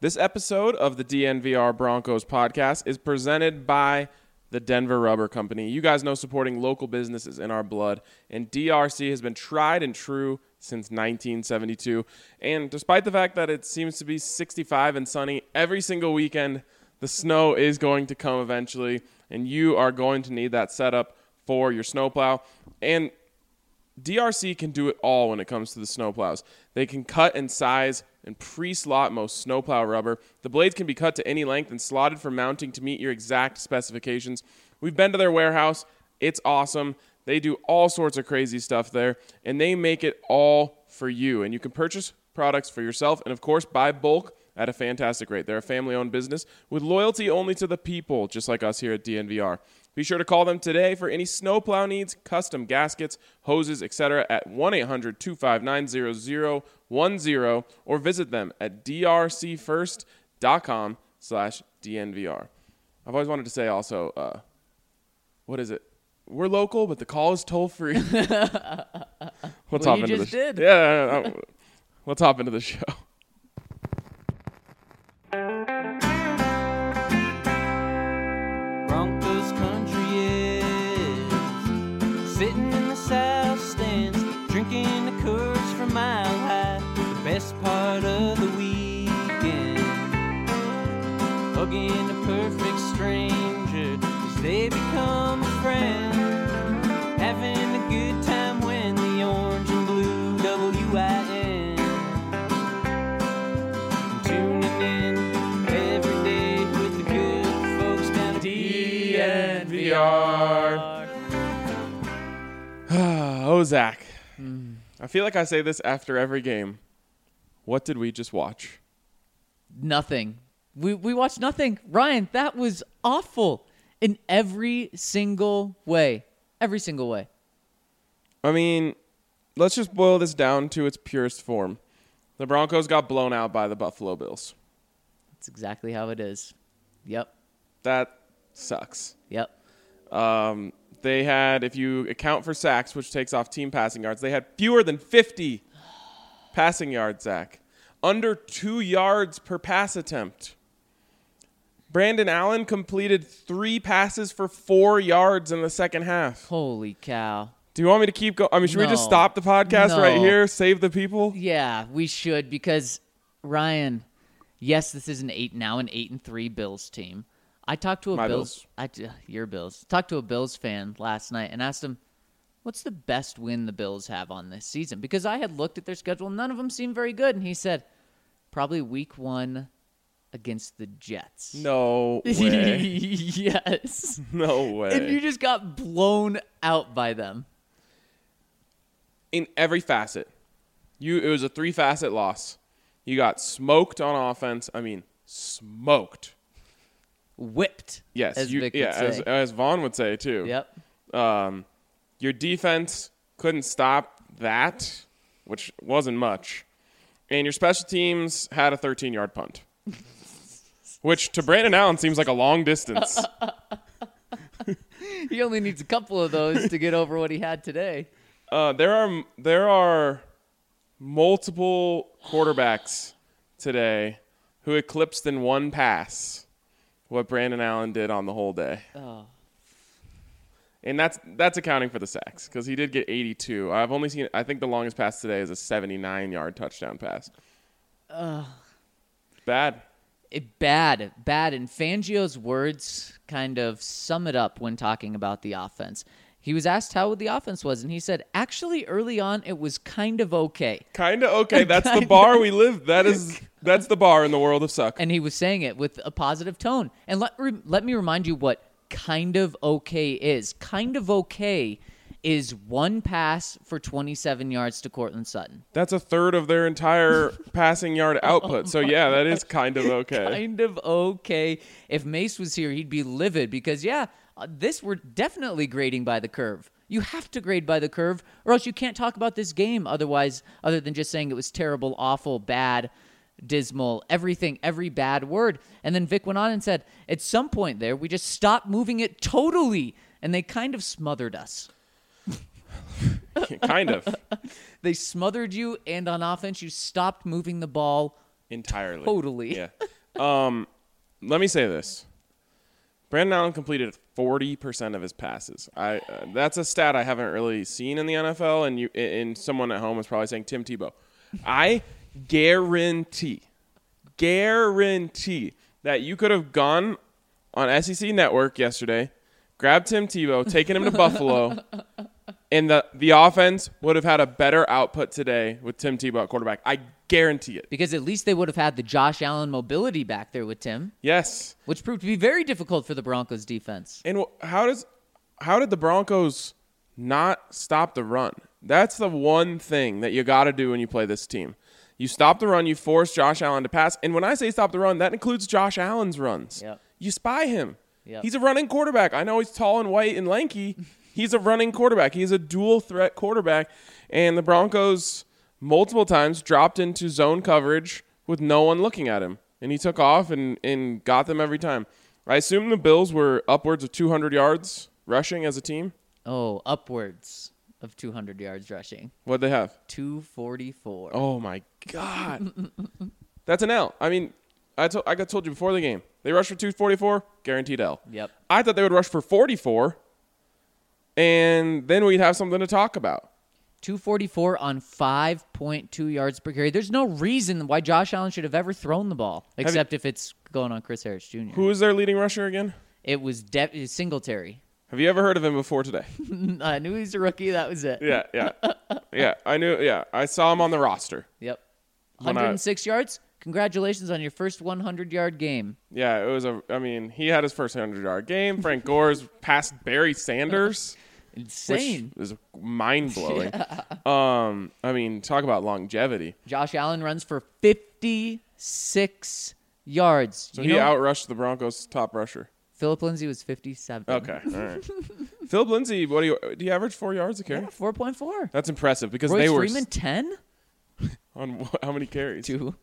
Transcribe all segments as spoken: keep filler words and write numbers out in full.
This episode of the D N V R Broncos podcast is presented by the Denver Rubber Company. You guys know supporting local businesses in our blood, and D R C has been tried and true since nineteen seventy-two. And despite the fact that it seems to be sixty-five and sunny every single weekend, the snow is going to come eventually, and you are going to need that setup for your snowplow. And D R C can do it all when it comes to the snowplows. They can cut and size and pre-slot most snowplow rubber. The blades can be cut to any length and slotted for mounting to meet your exact specifications. We've been to their warehouse. It's awesome. They do all sorts of crazy stuff there, and they make it all for you. And you can purchase products for yourself and, of course, buy bulk at a fantastic rate. They're a family-owned business with loyalty only to the people, just like us here at D N V R. Be sure to call them today for any snowplow needs, custom gaskets, hoses, et cetera at one eight hundred two five nine zero zero one zero or visit them at drcfirst.com slash DNVR. I've always wanted to say also, uh, what is it? We're local, but the call is toll-free. Let's well, hop you into just the did. Sh- yeah, uh, let's hop into the show. Broncos country is sitting in the south stands, drinking the Coors from Mile High. The best part of the weekend, hugging a perfect stranger as they become a friend, having a good time when the orange and blue W I N, tuning in every day with the good folks down at D N V R. Oh, Zach. I feel like I say this after every game. What did we just watch? Nothing. We we watched nothing. Ryan, that was awful in every single way. Every single way. I mean, let's just boil this down to its purest form. The Broncos got blown out by the Buffalo Bills. That's exactly how it is. Yep. That sucks. Yep. Um, they had, if you account for sacks, which takes off team passing yards, they had fewer than fifty passing yards, Zach. Under two yards per pass attempt. Brandon Allen completed three passes for four yards in the second half. Holy cow. Do you want me to keep going? I mean, should we just No. stop the podcast No. right here? Save the people? Yeah, we should because Ryan, yes, this is an eight now an eight and three Bills team. I talked to a My Bills, Bills. I, uh, your Bills. Talked to a Bills fan last night and asked him, "What's the best win the Bills have on this season?" Because I had looked at their schedule, none of them seemed very good, and he said, "Probably week one against the Jets." No way. Yes. No way. And you just got blown out by them. In every facet. You it was a three-facet loss. You got smoked on offense. I mean, smoked. Whipped. Yes, as you, Vic yeah, would as, say. as Vaughn would say too. Yep. Um, your defense couldn't stop that, which wasn't much, and your special teams had a thirteen-yard punt, which to Brandon Allen seems like a long distance. He only needs a couple of those to get over what he had today. Uh, there are there are multiple quarterbacks today who eclipsed in one pass what Brandon Allen did on the whole day. Oh. And that's that's accounting for the sacks because he did get eighty-two. I've only seen, I think the longest pass today is a seventy-nine-yard touchdown pass. Uh, Bad. it, bad, bad. And Fangio's words kind of sum it up when talking about the offense. He was asked how the offense was, and he said, actually, early on, it was kind of okay. Kind of okay. That's the bar we live. That is that's the bar in the world of suck. And he was saying it with a positive tone. And let, re- let me remind you what kind of okay is. Kind of okay is one pass for twenty-seven yards to Cortland Sutton. That's a third of their entire passing yard output. So, yeah, that is kind of okay. Kind of okay. If Mace was here, he'd be livid because, yeah, uh, this we're definitely grading by the curve. You have to grade by the curve, or else you can't talk about this game otherwise, other than just saying it was terrible, awful, bad, dismal, everything, every bad word. And then Vic went on and said, at some point there, we just stopped moving it totally, and they kind of smothered us. Kind of. They smothered you, and on offense, you stopped moving the ball Entirely. totally. Yeah. Um, let me say this. Brandon Allen completed forty percent of his passes. I uh, that's a stat I haven't really seen in the N F L, and you and someone at home is probably saying Tim Tebow. I guarantee, guarantee that you could have gone on S E C Network yesterday, grabbed Tim Tebow, taken him to Buffalo, and the, the offense would have had a better output today with Tim Tebow at quarterback. I guarantee it. Because at least they would have had the Josh Allen mobility back there with Tim, Yes. which proved to be very difficult for the Broncos defense. And wh- how does how did the Broncos not stop the run? That's the one thing that you got to do when you play this team. You stop the run, you force Josh Allen to pass. And when I say stop the run, that includes Josh Allen's runs. Yep. You spy him. Yep. He's a running quarterback. I know he's tall and white and lanky. He's a running quarterback. He's a dual threat quarterback. And the Broncos multiple times dropped into zone coverage with no one looking at him. And he took off and, and got them every time. I assume the Bills were upwards of two hundred yards rushing as a team. Oh, upwards of two hundred yards rushing. What'd they have? two forty-four. Oh, my God. That's an L. I mean, I, to- I got told you before the game. They rushed for two forty-four, guaranteed L. Yep. I thought they would rush for forty-four, and then we'd have something to talk about. two forty-four on five point two yards per carry. There's no reason why Josh Allen should have ever thrown the ball, except if it's going on Chris Harris Junior Who is their leading rusher again? It was De- Singletary. Have you ever heard of him before today? I knew he was a rookie. That was it. Yeah, yeah. Yeah, I knew. Yeah, I saw him on the roster. Yep. When one hundred six yards. Congratulations on your first hundred-yard game. Yeah, it was a. I mean, he had his first hundred-yard game. Frank Gore's passed Barry Sanders, Insane. which is mind-blowing. Um, I mean, talk about longevity. Josh Allen runs for fifty-six yards. So you he know, outrushed the Broncos' top rusher. Philip Lindsay was fifty-seven. Okay, all right. Philip Lindsay, what do you do? You average four yards a carry? Yeah, four point four. That's impressive because Royce they were Freeman, ten? on wh- how many carries? Two.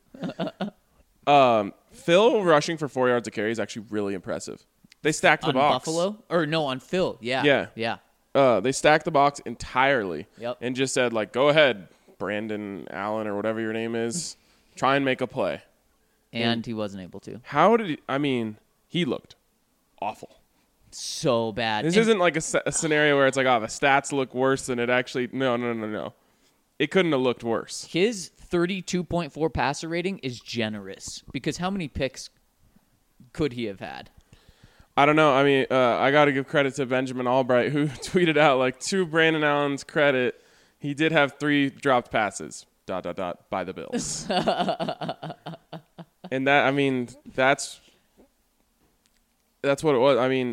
Um, Phil rushing for four yards a carry is actually really impressive. They stacked the On box. Buffalo? Or no, on Phil. Yeah. Yeah. Yeah. Uh, they stacked the box entirely. Yep. And just said like, go ahead, Brandon Allen or whatever your name is, try and make a play. And he wasn't able to. How did he? I mean, he looked awful. So bad. This And isn't like a, s- a scenario where it's like, oh, the stats look worse than it actually. No, no, no, no. It couldn't have looked worse. his thirty-two point four passer rating is generous because how many picks could he have had? I don't know. I mean, uh, I got to give credit to Benjamin Albright, who tweeted out, like, to Brandon Allen's credit, he did have three dropped passes, dot, dot, dot, by the Bills. And that, I mean, that's that's what it was. I mean,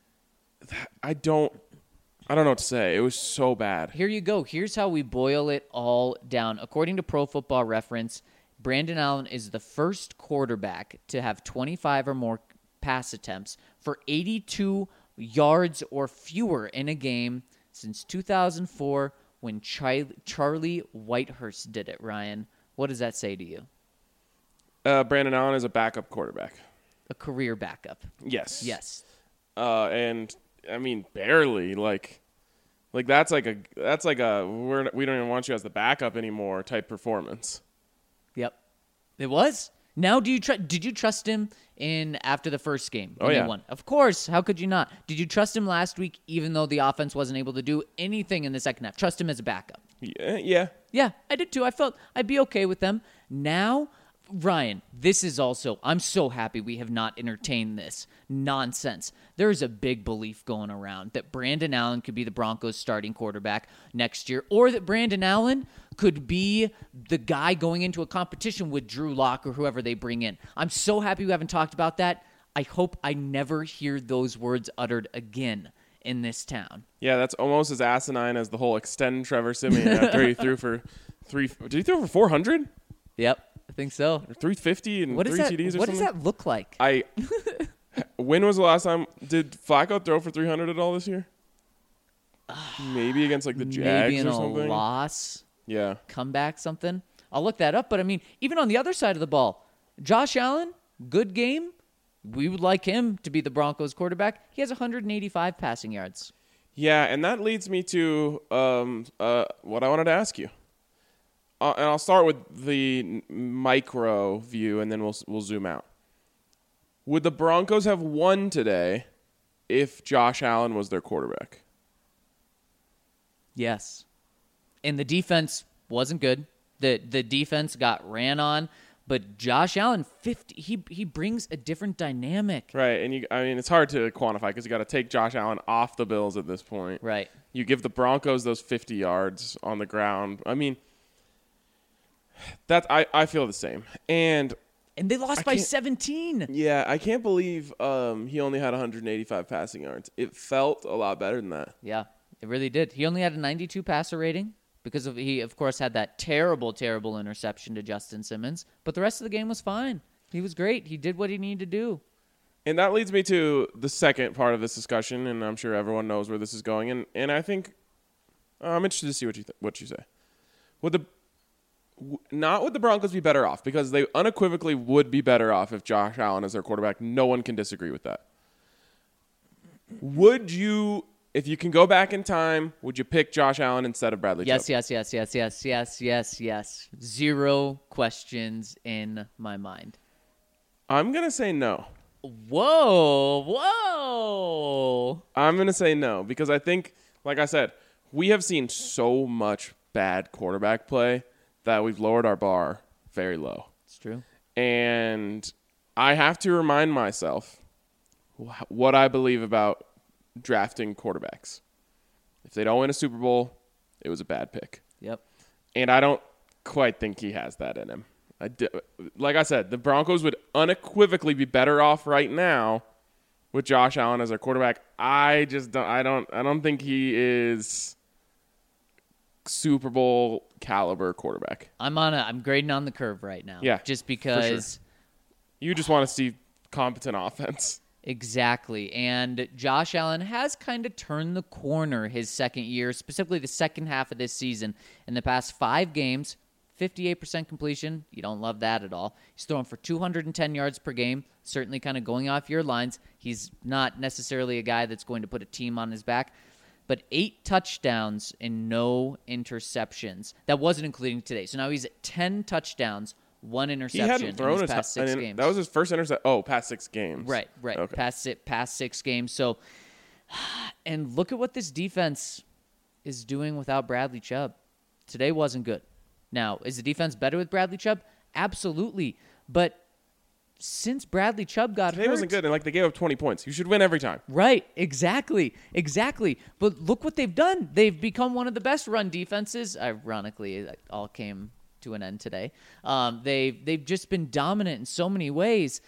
I don't, I don't know what to say. It was so bad. Here you go. Here's how we boil it all down. According to Pro Football Reference, Brandon Allen is the first quarterback to have twenty-five or more pass attempts for eighty-two yards or fewer in a game since two thousand four when Char- Charlie Whitehurst did it, Ryan. What does that say to you? Uh, Brandon Allen is a backup quarterback. A career backup. Yes. Yes. Uh, and I mean, barely. Like, like that's like a that's like a we're we don't even want you as the backup anymore type performance. Yep. It was. Now, do you tr- did you trust him in after the first game? Oh, when yeah. They won? Of course. How could you not? Did you trust him last week, even though the offense wasn't able to do anything in the second half? Trust him as a backup. Yeah, yeah. Yeah, I did too. I felt I'd be okay with them. Now, Ryan, this is also, I'm so happy we have not entertained this nonsense. There is a big belief going around that Brandon Allen could be the Broncos starting quarterback next year, or that Brandon Allen could be the guy going into a competition with Drew Lock or whoever they bring in. I'm so happy we haven't talked about that. I hope I never hear those words uttered again in this town. Yeah, that's almost as asinine as the whole extend Trevor Siemian after he threw for three. Did he throw for four hundred Yep, I think so. or three fifty and What three does that? T Ds or What something? does that look like? I. When was the last time did Flacco throw for three hundred at all this year? Maybe against like the Jags Maybe in or a something. loss. Yeah. Comeback, something. I'll look that up. But I mean, even on the other side of the ball, Josh Allen, good game. We would like him to be the Broncos quarterback. He has one hundred eighty-five passing yards. Yeah, and that leads me to um, uh, what I wanted to ask you. Uh, and I'll start with the n- micro view, and then we'll we'll zoom out. Would the Broncos have won today if Josh Allen was their quarterback? Yes. And the defense wasn't good. The the defense got ran on, but Josh Allen fifty he he brings a different dynamic. Right, and you I mean it's hard to quantify because you got to take Josh Allen off the Bills at this point. Right. You give the Broncos those fifty yards on the ground. I mean that's I, I feel the same. And And they lost I by can't- seventeen. yeah, I can't believe um, he only had one hundred eighty-five passing yards. It felt a lot better than that. Yeah, it really did. He only had a ninety-two passer rating because of he, of course, had that terrible, terrible interception to Justin Simmons. But the rest of the game was fine. He was great. He did what he needed to do. And that leads me to the second part of this discussion, and I'm sure everyone knows where this is going. And, and I think uh, I'm interested to see what you th- what you say. Would the w- not would the Broncos be better off? Because they unequivocally would be better off if Josh Allen is their quarterback. No one can disagree with that. Would you, if you can go back in time, would you pick Josh Allen instead of Bradley Yes, Chubb? yes, yes, yes, yes, yes, yes, yes. Zero questions in my mind. I'm gonna say no. Whoa, whoa. I'm going to say no because I think, like I said, we have seen so much bad quarterback play that we've lowered our bar very low. It's true. And I have to remind myself wh- what I believe about drafting quarterbacks. If they don't win a Super Bowl, it was a bad pick. Yep. And I don't quite think he has that in him. I di- like I said, the Broncos would unequivocally be better off right now with Josh Allen as their quarterback. I just don't. I don't. I don't think he is Super Bowl caliber quarterback. I'm on a I'm grading on the curve right now. Yeah, Just for sure. because You just want to see competent offense. exactly. And Josh Allen has kind of turned the corner his second year, specifically the second half of this season. In the past five games, fifty-eight percent completion. You don't love that at all. He's throwing for two hundred ten yards per game, certainly kind of going off your lines. He's not necessarily a guy that's going to put a team on his back, but eight touchdowns and no interceptions. That wasn't including today. So now he's at ten touchdowns, one He interception hadn't thrown in his a past t- six and games. That was his first intercept. Oh, past six games. Right, right. Okay. Past it, past six games. So, and look at what this defense is doing without Bradley Chubb. Today wasn't good. Now, is the defense better with Bradley Chubb? Absolutely. But since Bradley Chubb got Today hurt, wasn't good, and like they gave up twenty points. You should win every time. right? Exactly, exactly. But look what they've done. They've become one of the best run defenses. Ironically, it all came to an end today. Um, they've they've just been dominant in so many ways.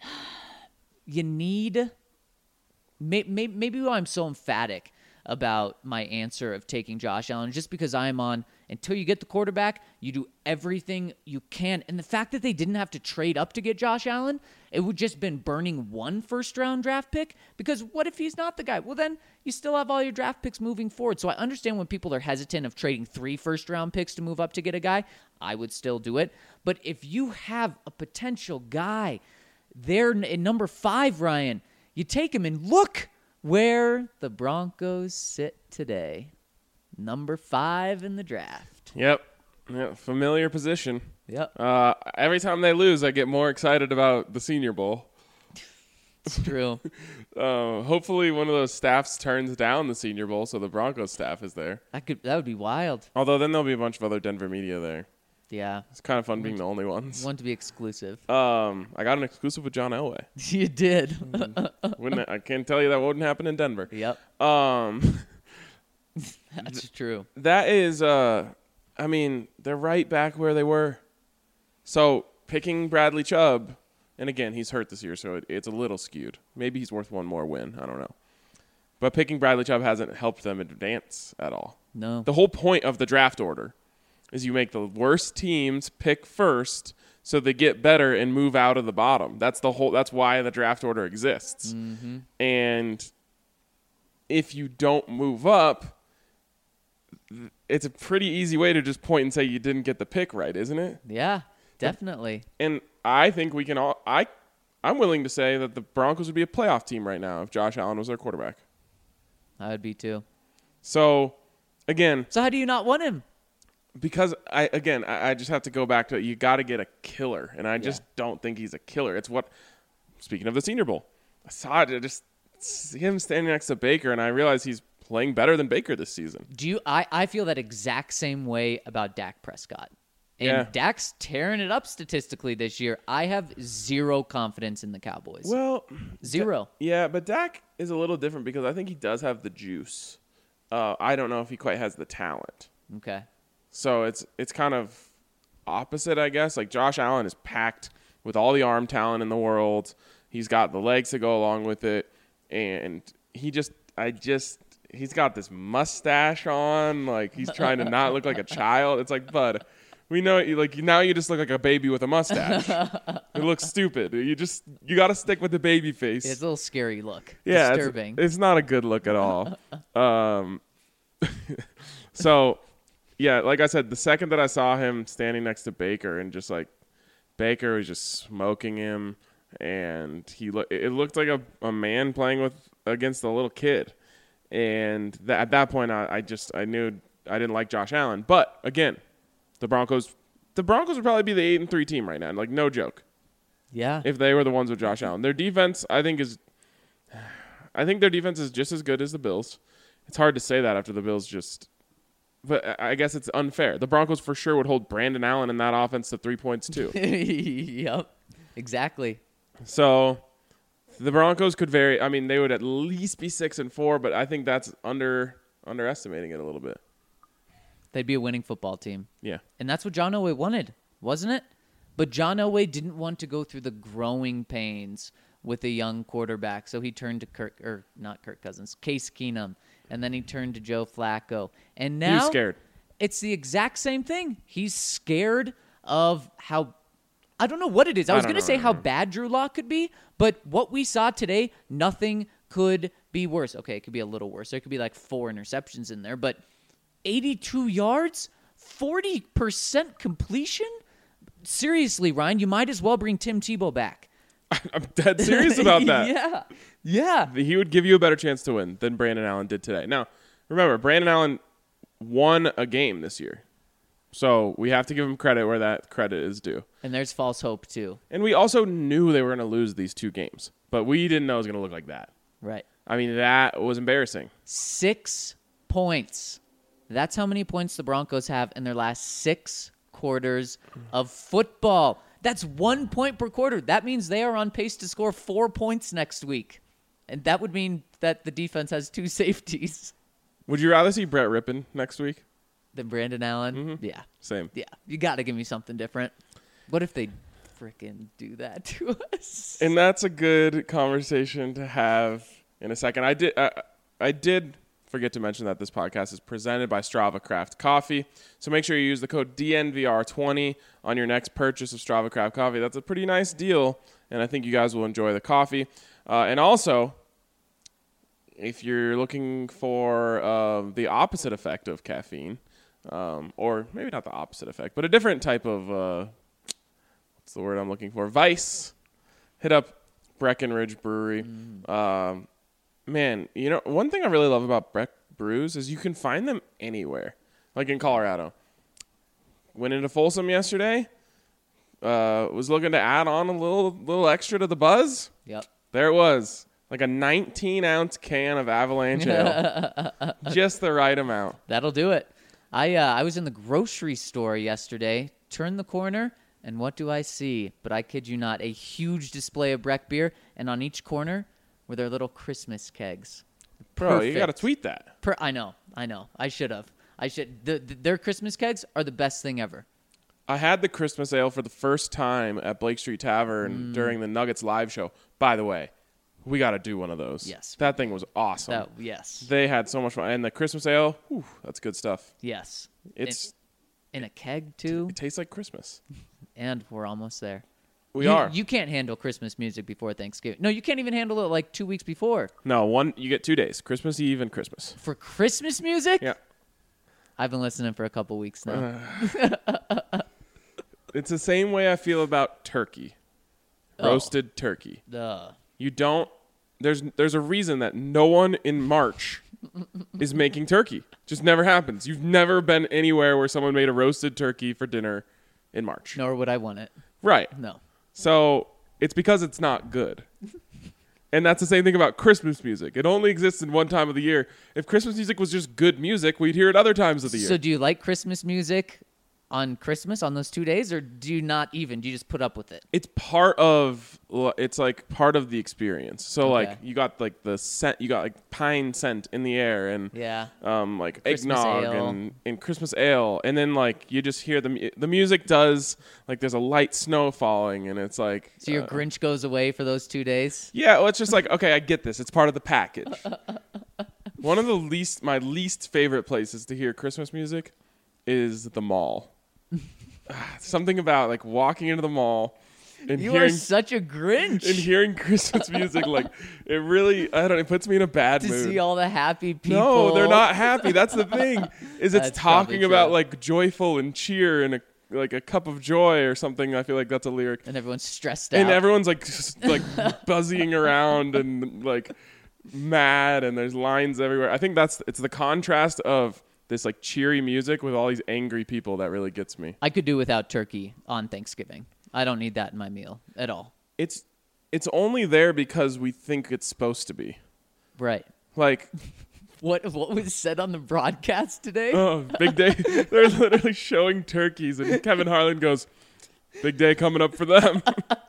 You need may, may, maybe why I'm so emphatic about my answer of taking Josh Allen, just because I'm on until you get the quarterback, you do everything you can. And the fact that they didn't have to trade up to get Josh Allen, it would just been burning one first round draft pick, because what if he's not the guy? Well, then you still have all your draft picks moving forward. So I understand when people are hesitant of trading three first round picks to move up to get a guy. I would still do it. But if you have a potential guy there in number five, Ryan, you take him and look where the Broncos sit today. Number five in the draft. Yep. Yep. Familiar position. Yep, Uh, every time they lose, I get more excited about the Senior Bowl. it's true. Uh, hopefully, one of those staffs turns down the Senior Bowl, so the Broncos staff is there. That could that would be wild. Although then there'll be a bunch of other Denver media there. Yeah, It's kind of fun being the only ones. want to be exclusive. Um, I got an exclusive with John Elway. You did. Wouldn't I can't tell you that wouldn't happen in Denver. Yep, Um, that's true. that is, uh, I mean, they're right back where they were. So picking Bradley Chubb, and again, he's hurt this year, so it, it's a little skewed. Maybe he's worth one more win. I don't know. But picking Bradley Chubb hasn't helped them advance at all. No. The whole point of the draft order is you make the worst teams pick first so they get better and move out of the bottom. That's the whole that's why the draft order exists. Mm-hmm. And if you don't move up, it's a pretty easy way to just point and say you didn't get the pick right, isn't it? Yeah, definitely. And I think we can all I I'm willing to say that the Broncos would be a playoff team right now if Josh Allen was their quarterback. I would be too. So again, So how do you not want him? because I again I, I just have to go back to it. You got to get a killer, and I just don't think he's a killer. It's what speaking of the Senior Bowl, I saw it, just see him standing next to Baker, and I realized he's playing better than Baker this season. Do you? I, I feel that exact same way about Dak Prescott. And Yeah. Dak's tearing it up statistically this year. I have zero confidence in the Cowboys. Well, Zero. yeah, but Dak is a little different because I think he does have the juice. Uh, I don't know if he quite has the talent. Okay. So it's it's kind of opposite, I guess. Like Josh Allen is packed with all the arm talent in the world. He's got the legs to go along with it, and he just, I just, he's got this mustache on. Like he's trying to not look like a child. It's like, bud, we know you like now. You just look like a baby with a mustache. It looks stupid. You just you got to stick with the baby face. It's a little scary look. Yeah, Disturbing. It's, it's not a good look at all. um, so, yeah, like I said, the second that I saw him standing next to Baker and just like Baker was just smoking him, and he look it looked like a, a man playing with against a little kid, and th- at that point I, I just I knew I didn't like Josh Allen, but again, the Broncos the Broncos would probably be the eight and three team right now, like no joke. Yeah. If they were the ones with Josh Allen. Their defense, I think, is I think their defense is just as good as the Bills. It's hard to say that after the Bills just but I guess it's unfair. The Broncos for sure would hold Brandon Allen in that offense to three points too. Yep. Exactly. So the Broncos could vary. I mean, they would at least be six and four, but I think that's under underestimating it a little bit. They'd be a winning football team. Yeah. And that's what John Elway wanted, wasn't it? But John Elway didn't want to go through the growing pains with a young quarterback, so he turned to Kirk, or not Kirk Cousins, Case Keenum, and then he turned to Joe Flacco. And now He was scared. It's the exact same thing. He's scared of how I don't know what it is. I I was don't going to know, say I don't how know. bad Drew Lock could be, but what we saw today, nothing could be worse. Okay, it could be a little worse. There could be like four interceptions in there, but eighty-two yards, forty percent completion? Seriously, Ryan, you might as well bring Tim Tebow back. I'm dead serious about that. yeah. Yeah. He would give you a better chance to win than Brandon Allen did today. Now, remember, Brandon Allen won a game this year. So we have to give him credit where that credit is due. And there's false hope, too. And we also knew they were going to lose these two games, but we didn't know it was going to look like that. Right. I mean, that was embarrassing. Six points. That's how many points the Broncos have in their last six quarters of football. That's one point per quarter. That means they are on pace to score four points next week. And that would mean that the defense has two safeties. Would you rather see Brett Rippon next week? Than Brandon Allen? Mm-hmm. Yeah. Same. Yeah. You got to give me something different. What if they freaking do that to us? And that's a good conversation to have in a second. I did uh, I did forget to mention that this podcast is presented by Strava Craft Coffee. So make sure you use the code D N V R twenty on your next purchase of Strava Craft Coffee. That's a pretty nice deal, and I think you guys will enjoy the coffee. Uh, and also, if you're looking for uh, the opposite effect of caffeine, um, or maybe not the opposite effect, but a different type of, uh, what's the word I'm looking for? Vice. Hit up Breckenridge Brewery. Mm. Um, man, you know, one thing I really love about Breck Brews is you can find them anywhere, like in Colorado. Went into Folsom yesterday. Uh, was looking to add on a little little extra to the buzz. Yep. There it was. Like a nineteen ounce can of Avalanche Ale. Just the right amount. That'll do it. I uh, I was in the grocery store yesterday, turned the corner, and what do I see? But I kid you not, a huge display of Breck beer, and on each corner were their little Christmas kegs. Bro, Perfect. you got to tweet that. Per- I know, I know. I should have. I should. The, the, their Christmas kegs are the best thing ever. I had the Christmas ale for the first time at Blake Street Tavern mm. during the Nuggets live show. By the way, we got to do one of those. Yes. That thing was awesome. That, yes. They had so much fun. And the Christmas ale, whew, that's good stuff. Yes. It's in, in a keg, too. It tastes like Christmas. And we're almost there. We you, are. You can't handle Christmas music before Thanksgiving. No, you can't even handle it like two weeks before. No, one. You get two days, Christmas Eve and Christmas. For Christmas music? Yeah. I've been listening for a couple weeks now. Uh, it's the same way I feel about turkey. Roasted oh. turkey. Duh. You don't. There's there's a reason that no one in March is making turkey. Just never happens. You've never been anywhere where someone made a roasted turkey for dinner in March. Nor would I want it. Right. No. So it's because it's not good. And that's the same thing about Christmas music. It only exists in one time of the year. If Christmas music was just good music, we'd hear it other times of the year. So do you like Christmas music on Christmas, on those two days, or do you not even? Do you just put up with it? It's part of, it's like part of the experience. So Okay. like you got like the scent, you got like pine scent in the air and Yeah. um like Christmas eggnog ale. and, and Christmas ale. And then like you just hear the, mu- the music does, like there's a light snow falling and it's like. So your uh, Grinch goes away for those two days? Yeah, well, it's just like, okay, I get this. It's part of the package. One of the least, my least favorite places to hear Christmas music is the mall. Something about like walking into the mall and You hearing are such a Grinch. and hearing Christmas music, like it really, I don't know, it puts me in a bad to mood. see all the happy people. No, they're not happy. That's the thing. Is it's That's talking probably about true. like joyful and cheer and a, like a cup of joy or something. I feel like that's a lyric. And everyone's stressed out. And everyone's like just, like buzzing around and like mad and there's lines everywhere. I think that's it's the contrast of this like cheery music with all these angry people that really gets me. I could do without turkey on Thanksgiving. I don't need that in my meal at all. It's it's only there because we think it's supposed to be. Right. Like What what was said on the broadcast today? oh, big day. They're literally showing turkeys and Kevin Harlan goes, "Big day coming up for them."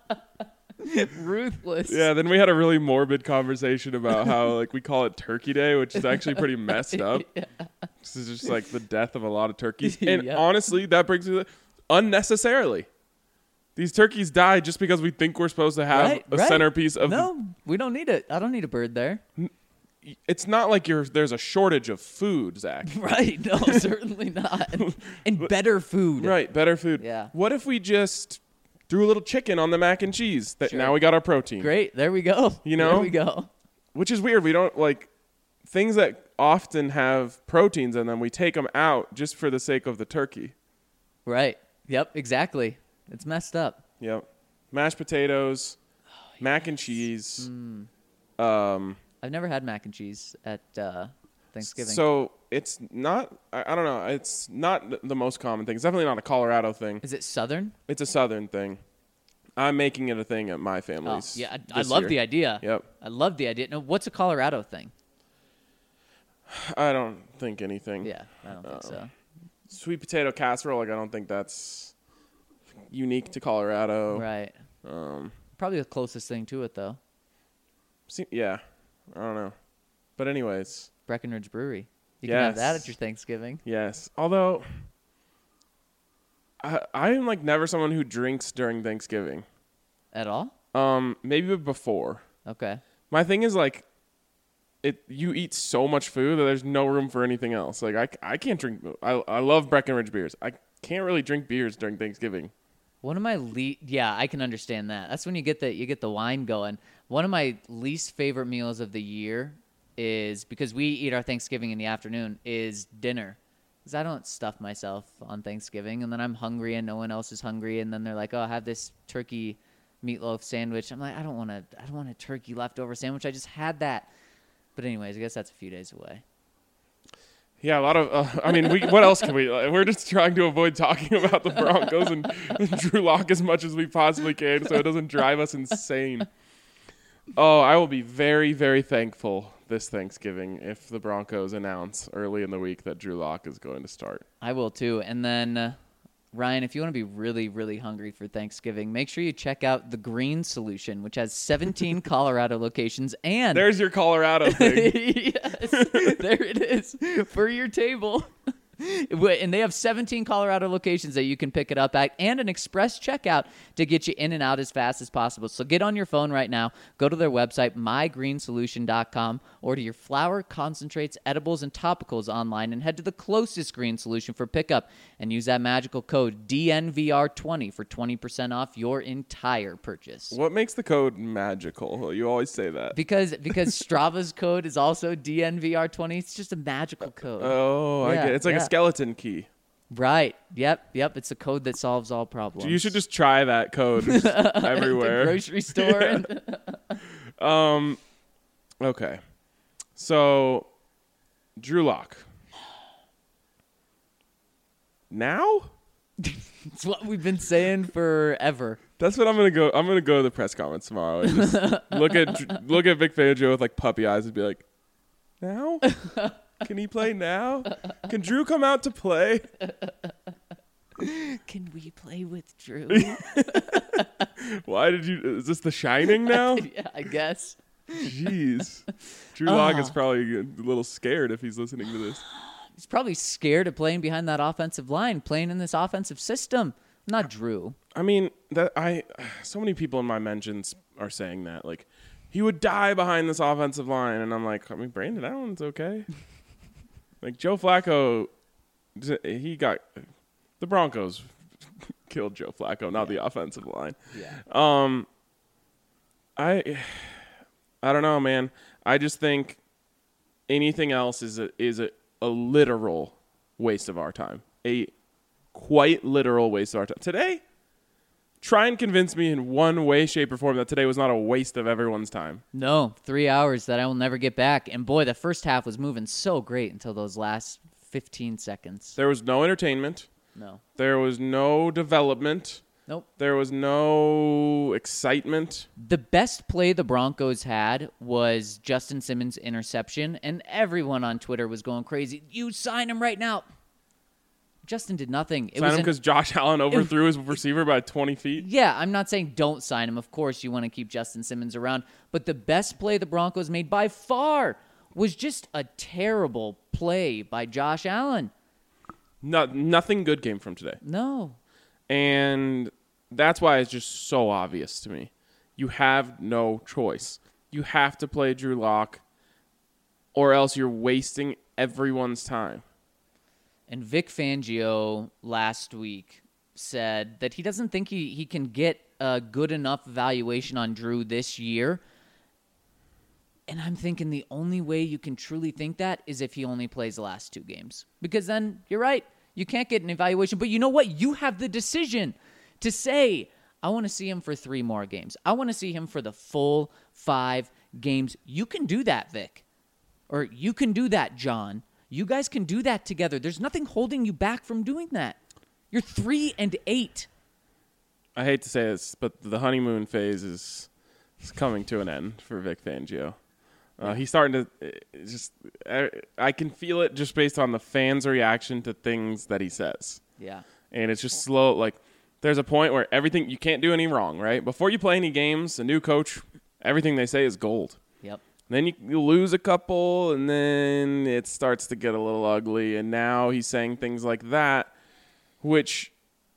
Ruthless. Yeah, then we had a really morbid conversation about how like we call it Turkey Day, which is actually pretty messed up. Yeah. This is just like the death of a lot of turkeys. And Yeah. honestly, that brings me to unnecessarily. These turkeys die just because we think we're supposed to have Right, a right. centerpiece of No, we don't need it. I don't need a bird there. it's not like you're there's a shortage of food, Zach. Right. No, certainly not. And better food. Right, better food. Yeah. What if we just threw a little chicken on the mac and cheese? That Sure. now we got our protein. Great. There we go. You know? There we go. Which is weird. We don't like things that often have proteins in them. We take them out just for the sake of the turkey. Right. Yep, exactly. It's messed up. Yep. Mashed potatoes, Oh, mac and cheese. Mm. Um, I've never had mac and cheese at uh, Thanksgiving. so it's not, I, I don't know, it's not th- the most common thing. It's definitely not a Colorado thing. Is it Southern? It's a Southern thing. I'm making it a thing at my Oh, family's. yeah. I, I this love year. the idea. Yep. I love the idea. No, what's a Colorado thing? I don't think anything. Yeah, I don't think so. Sweet potato casserole, like I don't think that's unique to Colorado. Right. Um, Probably the closest thing to it, though. see, yeah, I don't know. But anyways, Breckenridge Brewery. You can have that Yes. at your Thanksgiving. yes. Although I I am like never someone who drinks during Thanksgiving. At all? Um, maybe before. Okay. My thing is like it you eat so much food that there's no room for anything else. Like I, I can't drink I I love Breckenridge beers. I can't really drink beers during Thanksgiving. One of my le- yeah, I can understand that. That's when you get the you get the wine going. One of my least favorite meals of the year is because we eat our Thanksgiving in the afternoon is dinner. Because I don't stuff myself on Thanksgiving, and then I'm hungry and no one else is hungry, and then they're like, "Oh, have this turkey meatloaf sandwich." I'm like, "I don't want to. I don't want a turkey leftover sandwich. I just had that." But anyways, I guess that's a few days away. Yeah, a lot of. Uh, I mean, we. What else can we? We're just trying to avoid talking about the Broncos and, and Drew Lock as much as we possibly can, so it doesn't drive us insane. Oh, I will be very, very thankful this Thanksgiving if the Broncos announce early in the week that Drew Lock is going to start. I will too. And then, uh, Ryan, if you want to be really, really hungry for Thanksgiving, make sure you check out the Green Solution, which has seventeen Colorado locations. And There's your Colorado thing. yes, there it is for your table. And they have seventeen Colorado locations that you can pick it up at and an express checkout to get you in and out as fast as possible. So get on your phone right now, go to their website, my green solution dot com, or to your flour, concentrates, edibles, and topicals online and head to the closest Green Solution for pickup and use that magical code D N V R twenty for twenty percent off your entire purchase. What makes the code magical? You always say that. Because because Strava's code is also D N V R twenty. It's just a magical code. Oh, I Yeah, get it. It's like yeah. a skeleton key. Right. Yep. Yep. It's a code that solves all problems. You should just try that code everywhere. At the grocery store. And Um, okay. So, Drew Lock. Now? it's what we've been saying forever. That's what I'm gonna go. I'm gonna go to the press conference tomorrow and just look at look at Vic Fangio with like puppy eyes and be like, "Now, can he play now? Can Drew come out to play? Can we play with Drew? Why did you? Is this The Shining now? Yeah, I guess. Jeez, Drew Lock is probably a little scared if he's listening to this. He's probably scared of playing behind that offensive line, playing in this offensive system. Not Drew. I mean, that I so many people in my mentions are saying that like he would die behind this offensive line, and I'm like, I mean, Brandon Allen's okay. Like Joe Flacco, he got the Broncos killed Joe Flacco, not yeah. the offensive line. Yeah. Um. I, I don't know, man. I just think anything else is a is a, a literal waste of our time. A quite literal waste of our time. Today, try and convince me in one way, shape, or form that today was not a waste of everyone's time. No, three hours that I will never get back. And boy, the first half was moving so great until those last fifteen seconds. There was no entertainment. No. There was no development. Nope. There was no excitement. The best play the Broncos had was Justin Simmons' interception, and everyone on Twitter was going crazy. You sign him right now. Justin did nothing. It sign was him because Josh Allen overthrew his receiver by twenty feet? Yeah, I'm not saying don't sign him. Of course, you want to keep Justin Simmons around. But the best play the Broncos made by far was just a terrible play by Josh Allen. No, nothing good came from today. No. And that's why it's just so obvious to me. You have no choice. You have to play Drew Lock, or else you're wasting everyone's time. And Vic Fangio last week said that he doesn't think he, he can get a good enough evaluation on Drew this year. And I'm thinking the only way you can truly think that is if he only plays the last two games. Because then, you're right, you can't get an evaluation. But you know what? You have the decision to say, I want to see him for three more games. I want to see him for the full five games. You can do that, Vic. Or you can do that, John. You guys can do that together. There's nothing holding you back from doing that. You're three and eight. I hate to say this, but the honeymoon phase is, is coming to an end for Vic Fangio. Uh, he's starting to just I, I can feel it just based on the fans' reaction to things that he says. Yeah. And it's just slow. Like, there's a point where everything, you can't do any wrong, right? Before you play any games, a new coach, everything they say is gold. Yep. Then you, you lose a couple, and then it starts to get a little ugly. And now he's saying things like that, which,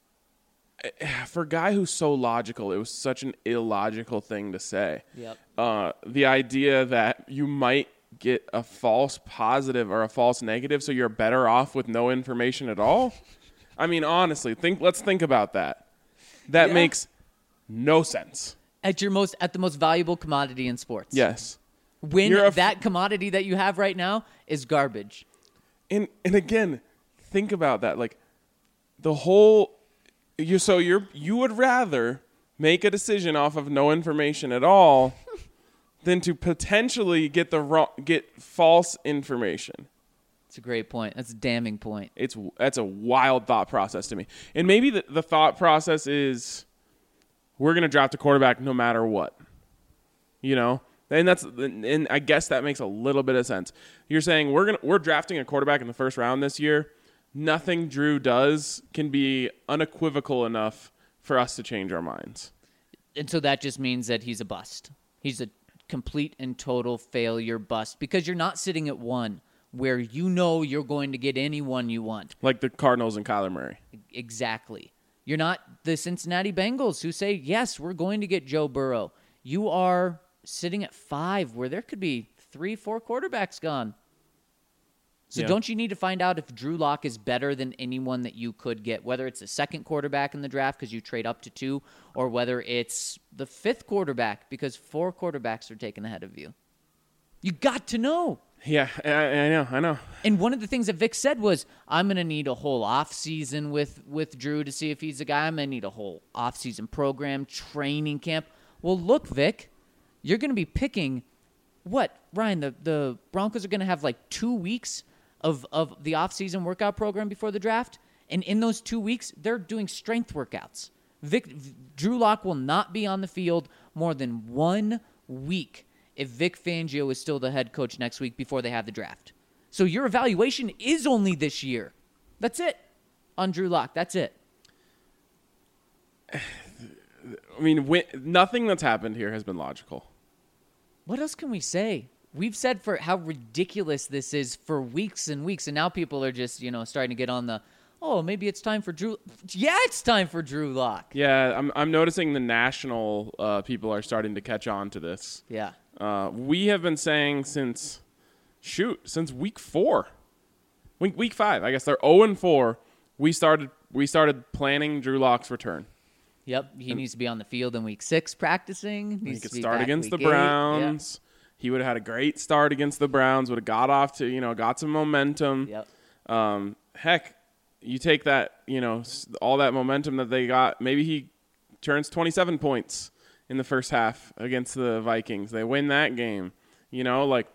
for a guy who's so logical, it was such an illogical thing to say. Yep. Uh, the idea that you might get a false positive or a false negative, so you're better off with no information at all. I mean, honestly, think. Let's think about that. That Yeah. makes no sense. At your most, at the most valuable commodity in sports. Yes. When You're a f- that commodity that you have right now is garbage. And and again, think about that. Like the whole you so you're you would rather make a decision off of no information at all than to potentially get the wrong get false information. It's a great point. That's a damning point. It's that's a wild thought process to me. And maybe the, the thought process is we're going to draft a quarterback no matter what. You know? And that's and I guess that makes a little bit of sense. You're saying we're going to we're drafting a quarterback in the first round this year. Nothing Drew does can be unequivocal enough for us to change our minds. And so that just means that he's a bust. He's a complete and total failure bust because you're not sitting at one where you know you're going to get anyone you want. Like the Cardinals and Kyler Murray. Exactly. You're not the Cincinnati Bengals who say, yes, we're going to get Joe Burrow. You are sitting at five where there could be three, four quarterbacks gone. So yeah. Don't you need to find out if Drew Lock is better than anyone that you could get, whether it's a second quarterback in the draft because you trade up to two, or whether it's the fifth quarterback because four quarterbacks are taken ahead of you? You got to know. Yeah, I, I know, I know. And one of the things that Vic said was, I'm going to need a whole offseason with, with Drew to see if he's a guy. I'm going to need a whole offseason program, training camp. Well, look, Vic, you're going to be picking, what, Ryan, the, the Broncos are going to have like two weeks of, of the offseason workout program before the draft. And in those two weeks, they're doing strength workouts. Vic, Drew Lock will not be on the field more than one week if Vic Fangio is still the head coach next week before they have the draft. So your evaluation is only this year. That's it on Drew Lock. That's it. I mean, when, nothing that's happened here has been logical. What else can we say? We've said for how ridiculous this is for weeks and weeks, and now people are just, you know, starting to get on the, oh, maybe it's time for Drew. Yeah, it's time for Drew Lock. Yeah, I'm I'm noticing the national uh, people are starting to catch on to this. Yeah. Uh, we have been saying since, shoot, since week four, week week five. I guess they're zero and four. We started we started planning Drew Lock's return. Yep, he and needs to be on the field in week six practicing. He Needs could to be start back against the week eight. Browns. Yep. He would have had a great start against the Browns. Would have got off to you know got some momentum. Yep. Um, heck, you take that you know all that momentum that they got. Maybe he turns twenty-seven points in the first half against the Vikings. They win that game. You know, like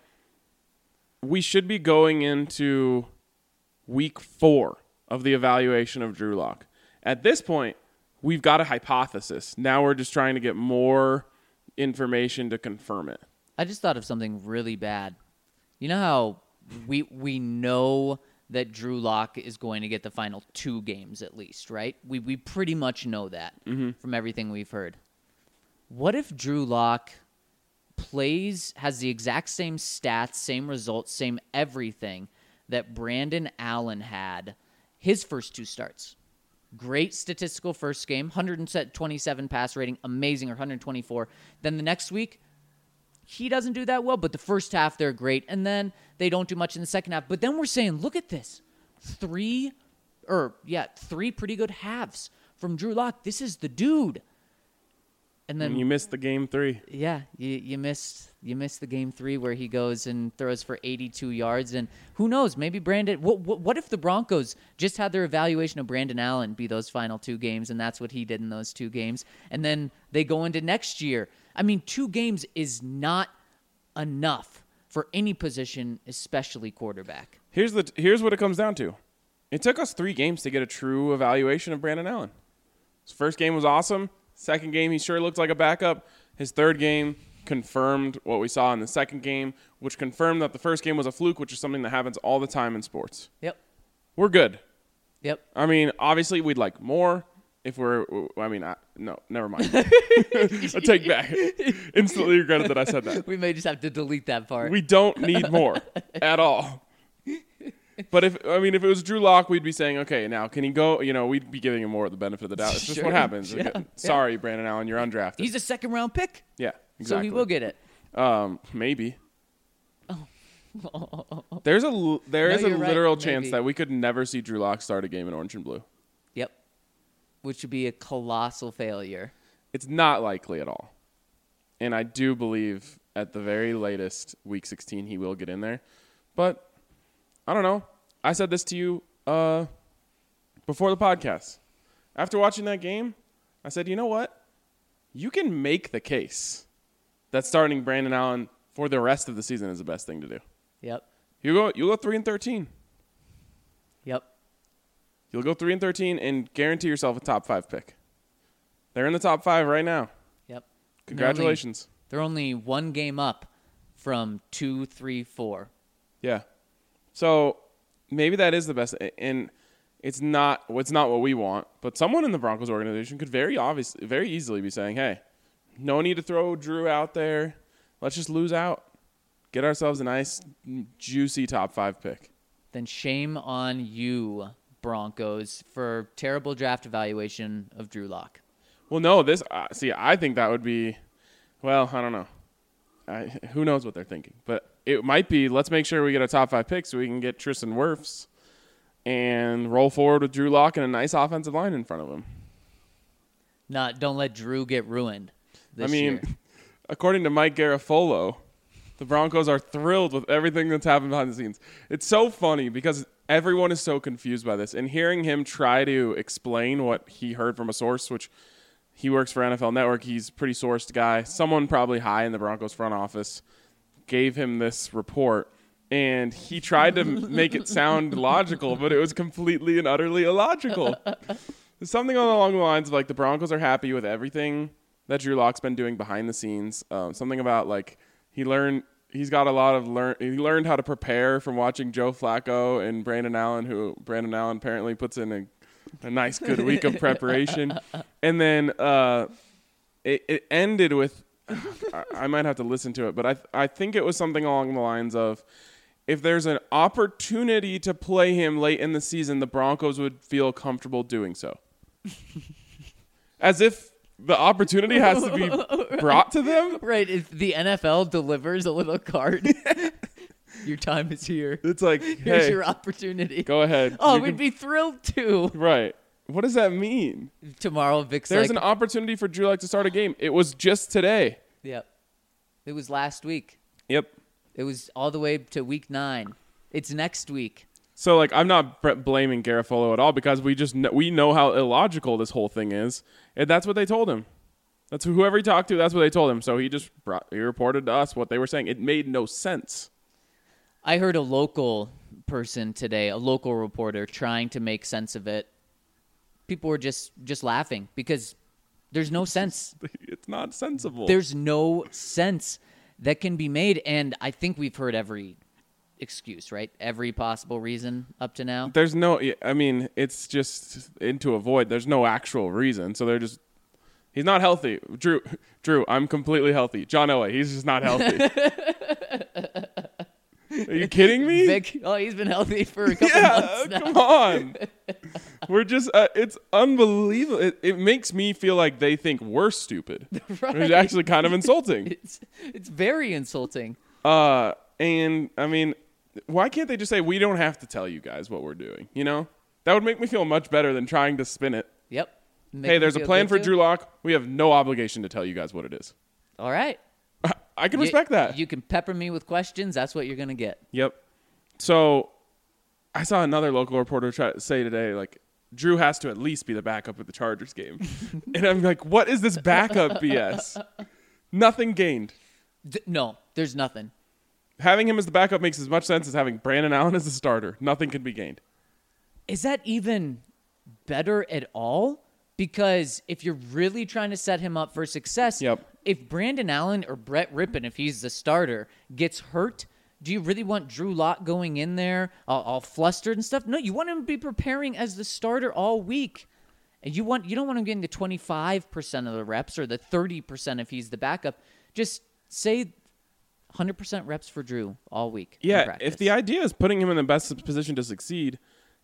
we should be going into week four of the evaluation of Drew Lock. At this point, we've got a hypothesis. Now we're just trying to get more information to confirm it. I just thought of something really bad. You know how we we know that Drew Lock is going to get the final two games at least, right? We we pretty much know that mm-hmm. from everything we've heard. What if Drew Lock plays, has the exact same stats, same results, same everything that Brandon Allen had his first two starts? Great statistical first game, one hundred twenty-seven pass rating, amazing, or one hundred twenty-four. Then the next week, he doesn't do that well, but the first half they're great, and then they don't do much in the second half. But then we're saying, look at this. Three, or yeah, three pretty good halves from Drew Lock. This is the dude. And then and you missed the game three. Yeah, you you missed you missed the game three where he goes and throws for eighty-two yards. And who knows? Maybe Brandon. What, what what if the Broncos just had their evaluation of Brandon Allen be those final two games, and that's what he did in those two games, and then they go into next year. I mean, two games is not enough for any position, especially quarterback. Here's the here's what it comes down to. It took us three games to get a true evaluation of Brandon Allen. His first game was awesome. Second game, he sure looked like a backup. His third game confirmed what we saw in the second game, which confirmed that the first game was a fluke, which is something that happens all the time in sports. Yep. We're good. Yep. I mean, obviously, we'd like more if we're – I mean, I, no, never mind. I take back. Instantly regretted that I said that. We may just have to delete that part. We don't need more at all. But if I mean, if it was Drew Lock, we'd be saying, okay, now can he go? You know, we'd be giving him more of the benefit of the doubt. It's just Sure. what happens. Yeah. Okay, sorry, Brandon Allen, you're undrafted. He's a second round pick. Yeah, exactly. So he will get it. Um, maybe. There's a l- there No, is a you're right. literal Maybe. chance that we could never see Drew Lock start a game in orange and blue. Yep. Which would be a colossal failure. It's not likely at all, and I do believe at the very latest, week sixteen, he will get in there. But I don't know. I said this to you uh, before the podcast. After watching that game, I said, you know what? You can make the case that starting Brandon Allen for the rest of the season is the best thing to do. Yep. You go, you go three and thirteen. Yep. You'll go three and thirteen and guarantee yourself a top five pick. They're in the top five right now. Yep. Congratulations. They're only, they're only one game up from two, three, four. Yeah. So maybe that is the best, and it's not. It's not what we want. But someone in the Broncos organization could very obviously, very easily be saying, "Hey, no need to throw Drew out there. Let's just lose out. Get ourselves a nice, juicy top five pick." Then shame on you, Broncos, for terrible draft evaluation of Drew Lock. Well, no. This uh, see, I think that would be. Well, I don't know. I, who knows what they're thinking, but it might be, let's make sure we get a top five pick so we can get Tristan Wirfs and roll forward with Drew Lock and a nice offensive line in front of him. Not, don't let Drew get ruined this I mean, year. according to Mike Garafolo, the Broncos are thrilled with everything that's happened behind the scenes. It's so funny because everyone is so confused by this, and hearing him try to explain what he heard from a source, which he works for N F L Network. He's a pretty sourced guy. Someone probably high in the Broncos front office gave him this report, and he tried to make it sound logical, but it was completely and utterly illogical. something along the lines of like the Broncos are happy with everything that Drew Lock's been doing behind the scenes. Um, something about like he learned he's got a lot of learn he learned how to prepare from watching Joe Flacco and Brandon Allen, who Brandon Allen apparently puts in a, a nice good week of preparation. And then uh, it, it ended with I, I might have to listen to it, but I I think it was something along the lines of, if there's an opportunity to play him late in the season, the Broncos would feel comfortable doing so. As if the opportunity has to be brought to them. Right. If the N F L delivers a little card, your time is here. It's like, Here's hey, your opportunity. go ahead. Oh, You we'd can- be thrilled to. Right. What does that mean? Tomorrow, Vic's There's like, an opportunity for Drew Lock to start a game. It was just today. yep. It was last week. Yep. It was all the way to week nine. It's next week. So, like, I'm not b- blaming Garofalo at all, because we just kn- we know how illogical this whole thing is, and that's what they told him. That's whoever he talked to. That's what they told him. So he just brought, he reported to us what they were saying. It made no sense. I heard a local person today, a local reporter, trying to make sense of it. People were just just laughing because there's no sense. It's not sensible. There's no sense that can be made, and I think we've heard every excuse, right? Every possible reason up to now. There's no. I mean, it's just into a void. There's no actual reason. So they're just. He's not healthy. Drew. Drew. I'm completely healthy. John Elway. He's just not healthy. Are you kidding me? Vic, oh, he's been healthy for a couple Yeah, months now. come on. We're just. Uh, it's unbelievable. It, it makes me feel like they think we're stupid. Right. It's actually kind of insulting. It's it's very insulting. Uh, and I mean, why can't they just say, we don't have to tell you guys what we're doing? You know, that would make me feel much better than trying to spin it. Yep. Make Hey, me there's a feel plan good for too. Drew Lock. We have no obligation to tell you guys what it is. All right. I can You- respect that. You can pepper me with questions. That's what you're gonna get. Yep. So I saw another local reporter try to say today, like, Drew has to at least be the backup at the Chargers game. And I'm like, what is this backup B S? Nothing gained. Th- no, there's nothing. Having him as the backup makes as much sense as having Brandon Allen as the starter. Nothing can be gained. Is that even better at all? Because if you're really trying to set him up for success, Yep. if Brandon Allen or Brett Rippon, if he's the starter, gets hurt, do you really want Drew Lock going in there all, all flustered and stuff? No, you want him to be preparing as the starter all week. And you want you don't want him getting the twenty-five percent of the reps or the thirty percent if he's the backup. Just say one hundred percent reps for Drew all week. in Yeah, practice. if the idea is putting him in the best position to succeed,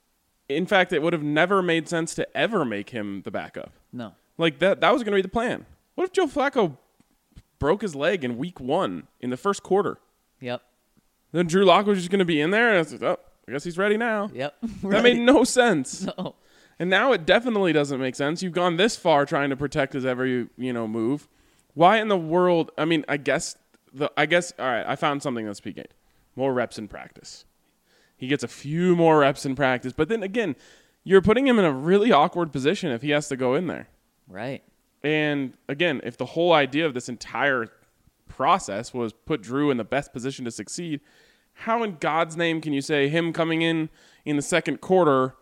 in fact, it would have never made sense to ever make him the backup. No. Like, that that was going to be the plan. What if Joe Flacco broke his leg in week one in the first quarter? Yep. Then Drew Lock was just going to be in there, and it's like, oh, I guess he's ready now. Yep. That made no sense. No. And now it definitely doesn't make sense. You've gone this far trying to protect his every, you know, move. Why in the world? I mean, I guess the I guess all right, I found something that's peaking. More reps in practice. He gets a few more reps in practice, but then again, you're putting him in a really awkward position if he has to go in there. Right. And again, if the whole idea of this entire process was put Drew in the best position to succeed, how in God's name can you say him coming in in the second quarter,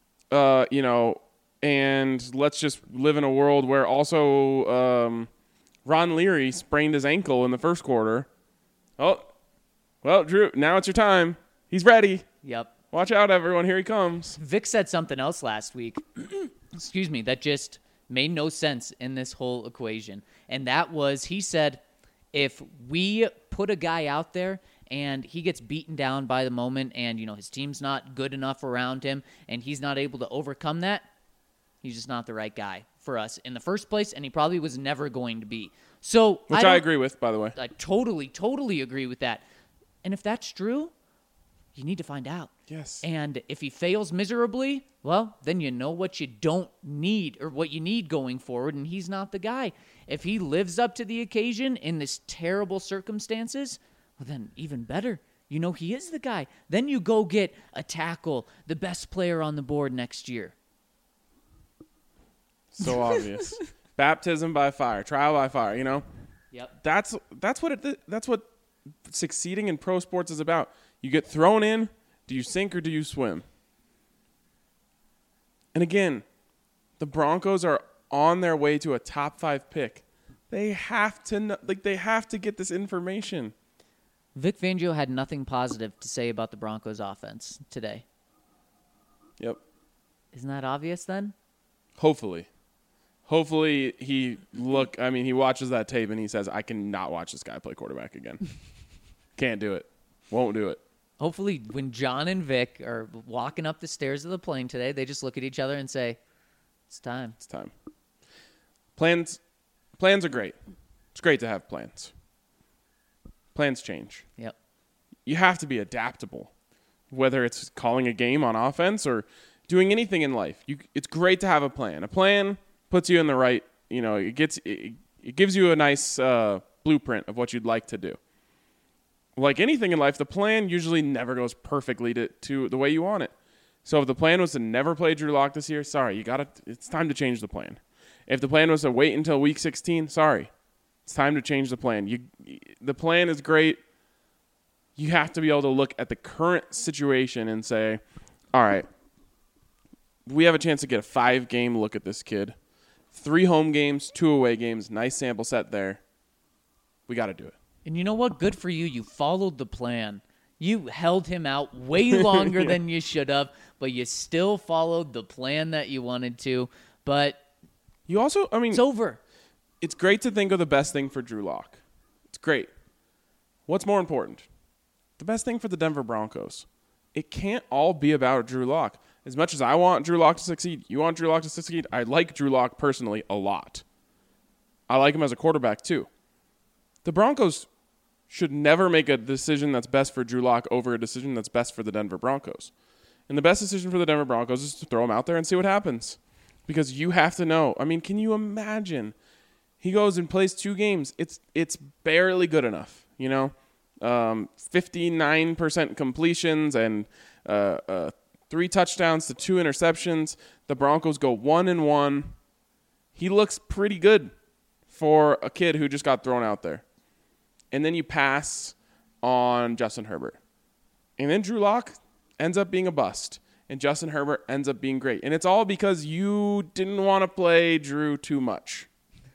uh, you know, and let's just live in a world where also um, Ron Leary sprained his ankle in the first quarter. Oh, well, Drew, now it's your time. He's ready. Yep. Watch out, everyone. Here he comes. Vic said something else last week, excuse me, that just made no sense in this whole equation. And that was, he said, if we put a guy out there and he gets beaten down by the moment and, you know, his team's not good enough around him and he's not able to overcome that, he's just not the right guy for us in the first place, and he probably was never going to be. So Which I, I don't- agree with, by the way. I totally, totally agree with that. And if that's true, you need to find out. Yes. And if he fails miserably, well, then you know what you don't need or what you need going forward, and he's not the guy. If he lives up to the occasion in this terrible circumstances, well, then even better. You know he is the guy. Then you go get a tackle, the best player on the board next year. So obvious. Baptism by fire, trial by fire, you know? Yep. That's that's what it that's what succeeding in pro sports is about. You get thrown in, do you sink or do you swim? And again, The Broncos are on their way to a top five pick. They have to know, like they have to get this information. Vic Fangio had nothing positive to say about the Broncos offense today. Yep. Isn't that obvious then? Hopefully. Hopefully he look I mean he watches that tape and he says, I cannot watch this guy play quarterback again. Can't do it. Won't do it. Hopefully when John and Vic are walking up the stairs of the plane today, they just look at each other and say, it's time. It's time. Plans plans are great. It's great to have plans. Plans change. Yep. You have to be adaptable. Whether it's calling a game on offense or doing anything in life. You it's great to have a plan. A plan puts you in the right, you know, it gets it, it gives you a nice uh, blueprint of what you'd like to do. Like anything in life, the plan usually never goes perfectly to, to the way you want it. So if the plan was to never play Drew Lock this year, sorry, you got to it's time to change the plan. If the plan was to wait until week sixteen, sorry. It's time to change the plan. You the plan is great. You have to be able to look at the current situation and say, all right, we have a chance to get a five-game look at this kid. Three home games, two away games, nice sample set there. We got to do it. And you know what? Good for you. You followed the plan. You held him out way longer yeah. than you should have, but you still followed the plan that you wanted to. But you also, I mean, it's over. It's great to think of the best thing for Drew Lock. It's great. What's more important? The best thing for the Denver Broncos. It can't all be about Drew Lock. As much as I want Drew Lock to succeed, you want Drew Lock to succeed, I like Drew Lock personally a lot. I like him as a quarterback too. The Broncos should never make a decision that's best for Drew Lock over a decision that's best for the Denver Broncos. And the best decision for the Denver Broncos is to throw him out there and see what happens. Because you have to know. I mean, can you imagine? He goes and plays two games. It's it's barely good enough, you know? Um, fifty-nine percent completions and uh, uh, three touchdowns to two interceptions. The Broncos go one and one. He looks pretty good for a kid who just got thrown out there. And then you pass on Justin Herbert. And then Drew Lock ends up being a bust. And Justin Herbert ends up being great. And it's all because you didn't want to play Drew too much.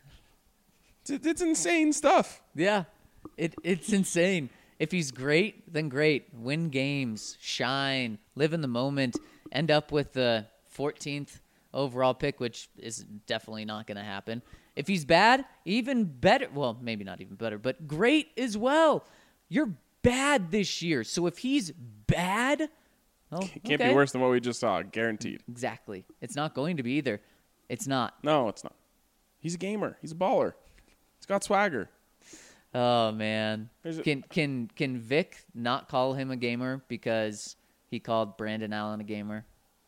It's, it's insane stuff. Yeah, it it's insane. If he's great, then great. Win games, shine, live in the moment, end up with the fourteenth overall pick, which is definitely not going to happen. If he's bad, even better. Well, maybe not even better, but great as well. You're bad this year. So if he's bad, oh, can't okay. be worse than what we just saw, guaranteed. Exactly. It's not going to be either. It's not. No, it's not. He's a gamer. He's a baller. He's got swagger. Oh man. A- can can can Vic not call him a gamer because he called Brandon Allen a gamer?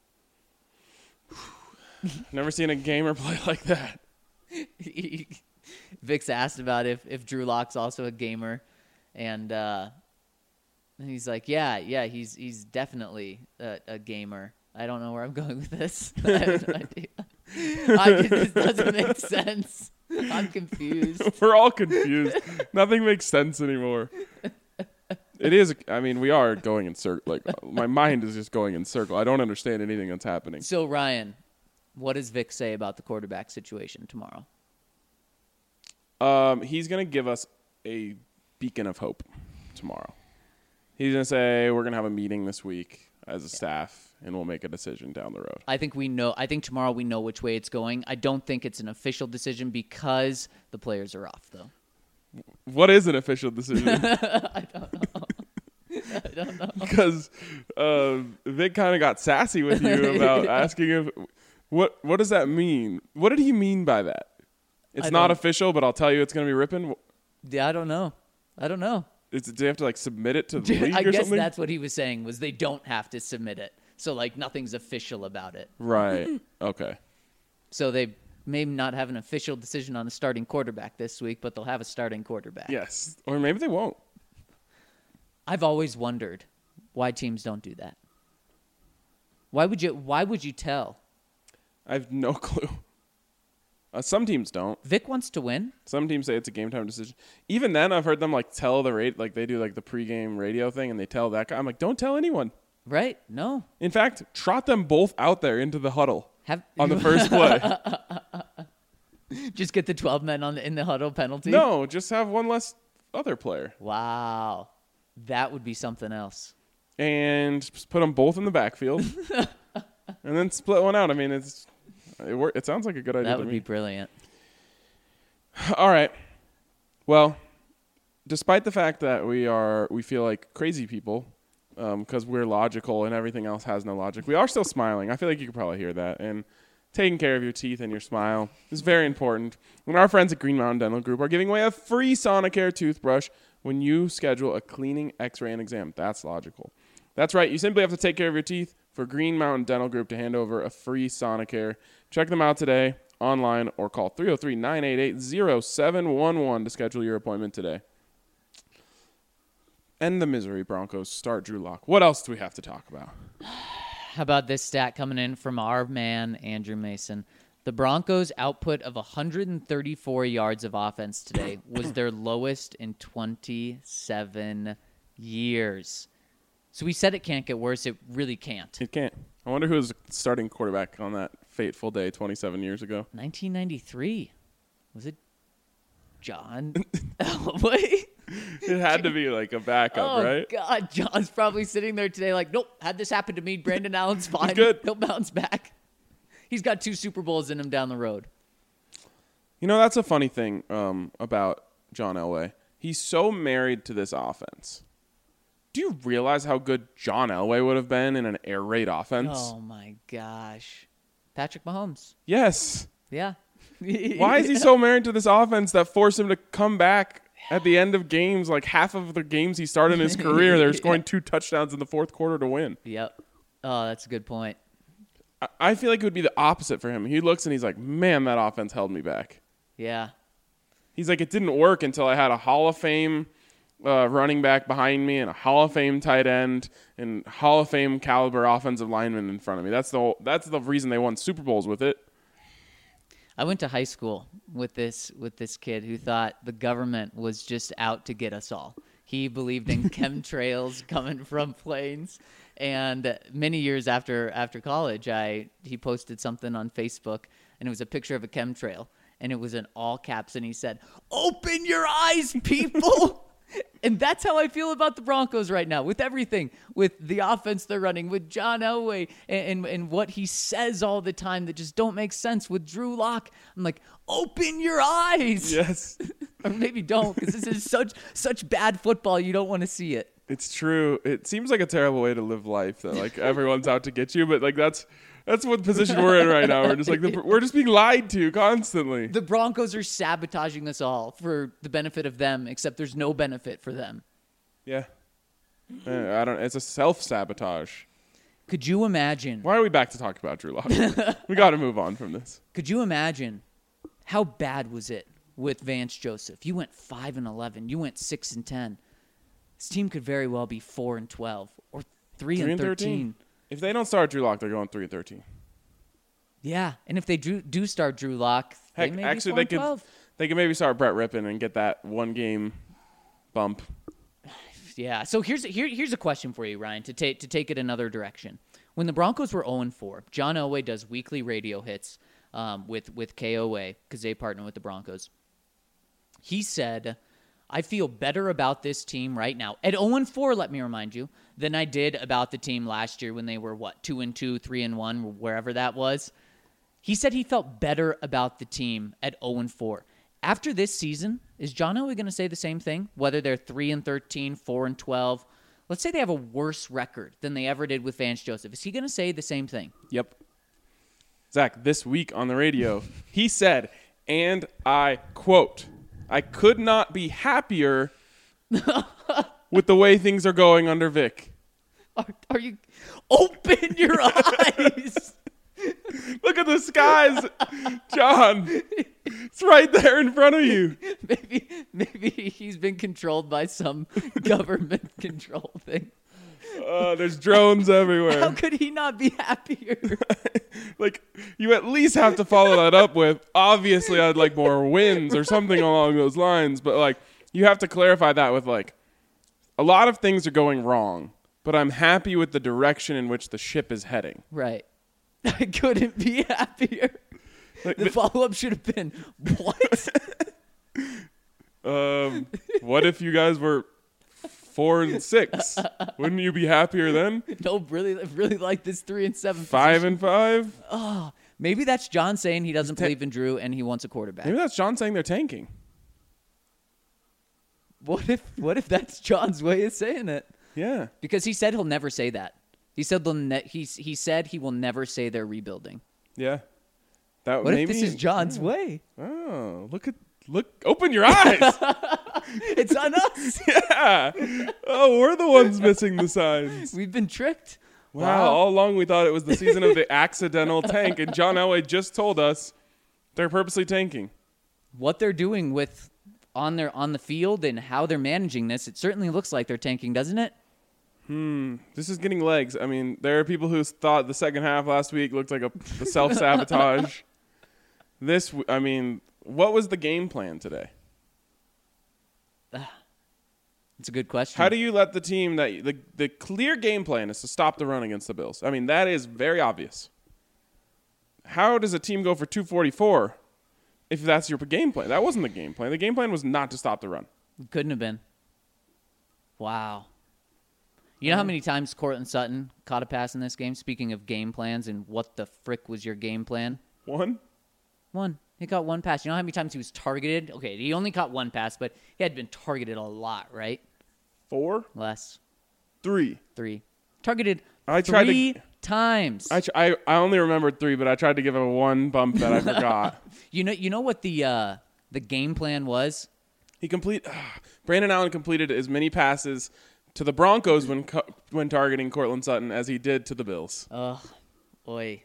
Never seen a gamer play like that. Vic's asked about if, if Drew Lock's also a gamer, and uh, he's like, yeah, yeah, he's he's definitely a, a gamer. I don't know where I'm going with this. I have no idea. I, this doesn't make sense. I'm confused. We're all confused. Nothing makes sense anymore. It is. I mean, we are going in circle. Like my mind is just going in circle. I don't understand anything that's happening. So Ryan, what does Vic say about the quarterback situation tomorrow? Um, he's gonna give us a beacon of hope tomorrow. He's gonna say we're gonna have a meeting this week as a yeah. staff, and we'll make a decision down the road. I think we know. I think tomorrow we know which way it's going. I don't think it's an official decision because the players are off, though. What is an official decision? I don't know. I don't know. Because uh, Vic kind of got sassy with you about asking if what what does that mean? What did he mean by that? It's not official, but I'll tell you it's going to be ripping. Yeah, I don't know. I don't know. Is, do they have to like submit it to the league I or guess something? that's what he was saying, was they don't have to submit it. So, like, nothing's official about it. Right. Okay. So they may not have an official decision on a starting quarterback this week, but they'll have a starting quarterback. Yes. Or maybe they won't. I've always wondered why teams don't do that. Why would you Why would you tell? I have no clue. Uh, some teams don't. Vic wants to win. Some teams say it's a game time decision. Even then, I've heard them like tell the rate, like they do like the pregame radio thing, and they tell that guy. I'm like, don't tell anyone. Right? No. In fact, trot them both out there into the huddle Have on the first play. Just get the twelve men on the, in the huddle penalty? No, just have one less other player. Wow. That would be something else. And just put them both in the backfield. And then split one out. I mean, it's it, wor- it sounds like a good idea That to would me. be brilliant. All right. Well, despite the fact that we are we feel like crazy people because um, we're logical and everything else has no logic, we are still smiling. I feel like you could probably hear that. And taking care of your teeth and your smile is very important. And our friends at Green Mountain Dental Group are giving away a free Sonicare toothbrush when you schedule a cleaning, x-ray, and exam. That's logical. That's right. You simply have to take care of your teeth for Green Mountain Dental Group to hand over a free Sonicare. Check them out today online or call three oh three, nine eight eight, oh seven one one to schedule your appointment today. End the misery, Broncos. Start Drew Lock. What else do we have to talk about? How about this stat coming in from our man, Andrew Mason? The Broncos' output of one hundred thirty-four yards of offense today was their lowest in twenty-seven years. So we said it can't get worse. It really can't. It can't. I wonder who was the starting quarterback on that fateful day twenty-seven years ago. nineteen ninety-three. Was it John Elway? It had to be like a backup, Oh, right? God. John's probably sitting there today like, nope, had this happen to me. Brandon Allen's fine. good. He'll bounce back. He's got two Super Bowls in him down the road. You know, that's a funny thing um, about John Elway. He's so married to this offense. Do you realize how good John Elway would have been in an air raid offense? Oh, my gosh. Patrick Mahomes. Yes. Yeah. Why is he so married to this offense that forced him to come back at the end of games? Like half of the games he started in his career, they're scoring two touchdowns in the fourth quarter to win. Yep. Oh, that's a good point. I, I feel like it would be the opposite for him. He looks and he's like, man, that offense held me back. Yeah. He's like, it didn't work until I had a Hall of Fame uh, running back behind me and a Hall of Fame tight end and Hall of Fame caliber offensive lineman in front of me. That's the whole, that's the reason they won Super Bowls with it. I went to high school with this with this kid who thought the government was just out to get us all. He believed in chemtrails coming from planes. And many years after after college, I he posted something on Facebook, and it was a picture of a chemtrail, and it was in all caps, and he said, "Open your eyes, people." And that's how I feel about the Broncos right now, with everything, with the offense they're running, with John Elway, and, and, and what he says all the time that just don't make sense, with Drew Lock. I'm like, open your eyes. Yes. Or maybe don't, because this is such such bad football, you don't want to see it. It's true. It seems like a terrible way to live life that like everyone's out to get you, but like that's that's what position we're in right now. We're just like the, we're just being lied to constantly. The Broncos are sabotaging us all for the benefit of them, except there's no benefit for them. Yeah. Uh, I don't. It's a self-sabotage. Could you imagine? Why are we back to talk about Drew Lock? We got to move on from this. Could you imagine how bad was it with Vance Joseph? You went five and eleven. You went six and ten. This team could very well be four and twelve or three, Three and and thirteen. thirteen. If they don't start Drew Lock, they're going three and thirteen. Yeah, and if they do, do start Drew Lock, they Heck, may actually, be four they and could twelve. they could maybe start Brett Rippon and get that one game bump. Yeah. So here's here, here's a question for you, Ryan, to take to take it another direction. When the Broncos were oh and four, John Elway does weekly radio hits um, with with K O A because they partner with the Broncos. He said, "I feel better about this team right now at oh and four. Let me remind you, than I did about the team last year when they were what two and two, three and one, wherever that was." He said he felt better about the team at oh and four. After this season, is John Elway going to say the same thing? Whether they're three and thirteen, four and twelve, let's say they have a worse record than they ever did with Vance Joseph. Is he going to say the same thing? Yep. Zach, this week on the radio, he said, and I quote, "I could not be happier with the way things are going under Vic." Are, are you open your eyes? Look at the skies, John. It's right there in front of you. Maybe maybe he's been controlled by some government control thing. Uh, there's drones everywhere. How could he not be happier? Like, you at least have to follow that up with, obviously I'd like more wins or something along those lines. But, like, you have to clarify that with, like, a lot of things are going wrong, but I'm happy with the direction in which the ship is heading. Right. I couldn't be happier. Like, The follow-up should have been, what? um, what if you guys were four and six? Wouldn't you be happier then? No, really, really like this three and seven. Five position. and five? Oh, maybe that's John saying he doesn't ta- believe in Drew and he wants a quarterback. Maybe that's John saying they're tanking. What if what if that's John's way of saying it? Yeah. Because he said he'll never say that. He said they'll ne- he he said he will never say they're rebuilding. Yeah. That What maybe, if this is John's way? Oh, look at look! Open your eyes. It's on us. Yeah. Oh, we're the ones missing the signs. We've been tricked. Wow. All along we thought it was the season of the accidental tank, and John Elway just told us they're purposely tanking. What they're doing with on their on the field and how they're managing this, it certainly looks like they're tanking, doesn't it? Hmm. This is getting legs. I mean, there are people who thought the second half last week looked like a, a self-sabotage. This, w- I mean, what was the game plan today? It's a good question. How do you let the team that the the clear game plan is to stop the run against the Bills? I mean, that is very obvious. How does a team go for two forty-four if that's your game plan? That wasn't the game plan. The game plan was not to stop the run. Couldn't have been. Wow. You know how many times Cortland Sutton caught a pass in this game? Speaking of game plans and what the frick was your game plan? One? One. He caught one pass. You know how many times he was targeted? Okay, he only caught one pass, but he had been targeted a lot, right? Four? Less. Three. Three. Targeted I tried to- three times. I, tr- I I only remembered three, but I tried to give him one bump that I forgot. You know, you know what the uh, the game plan was? He complete. Brandon Allen completed as many passes to the Broncos when co- when targeting Cortland Sutton as he did to the Bills. Ugh, boy.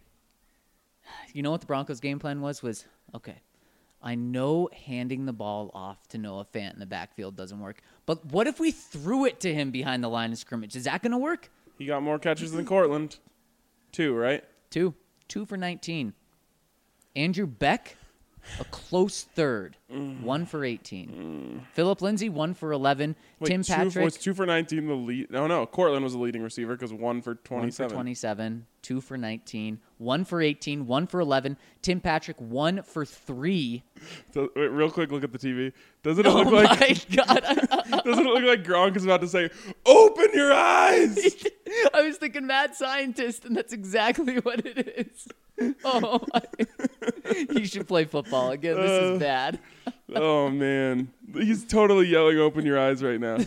You know what the Broncos' game plan was? Was okay. I know handing the ball off to Noah Fant in the backfield doesn't work, but what if we threw it to him behind the line of scrimmage? Is that going to work? He got more catches than Cortland. Two, right? Two, two for nineteen. Andrew Beck, a close third, mm. one for eighteen. Mm. Phillip Lindsay, one for eleven. Wait, Tim two, Patrick was two for nineteen. The lead. No, no. Cortland was the leading receiver because one for twenty-seven. One for twenty-seven. Two for nineteen. One for eighteen. One for eleven. Tim Patrick, one for three. So, wait, real quick, look at the T V. Doesn't it Oh look like? my God! Doesn't it look like Gronk is about to say, "Open your eyes"? I was thinking mad scientist, and that's exactly what it is. Oh, my. He should play football again. This Uh, is bad. Oh man, he's totally yelling, "Open your eyes" right now.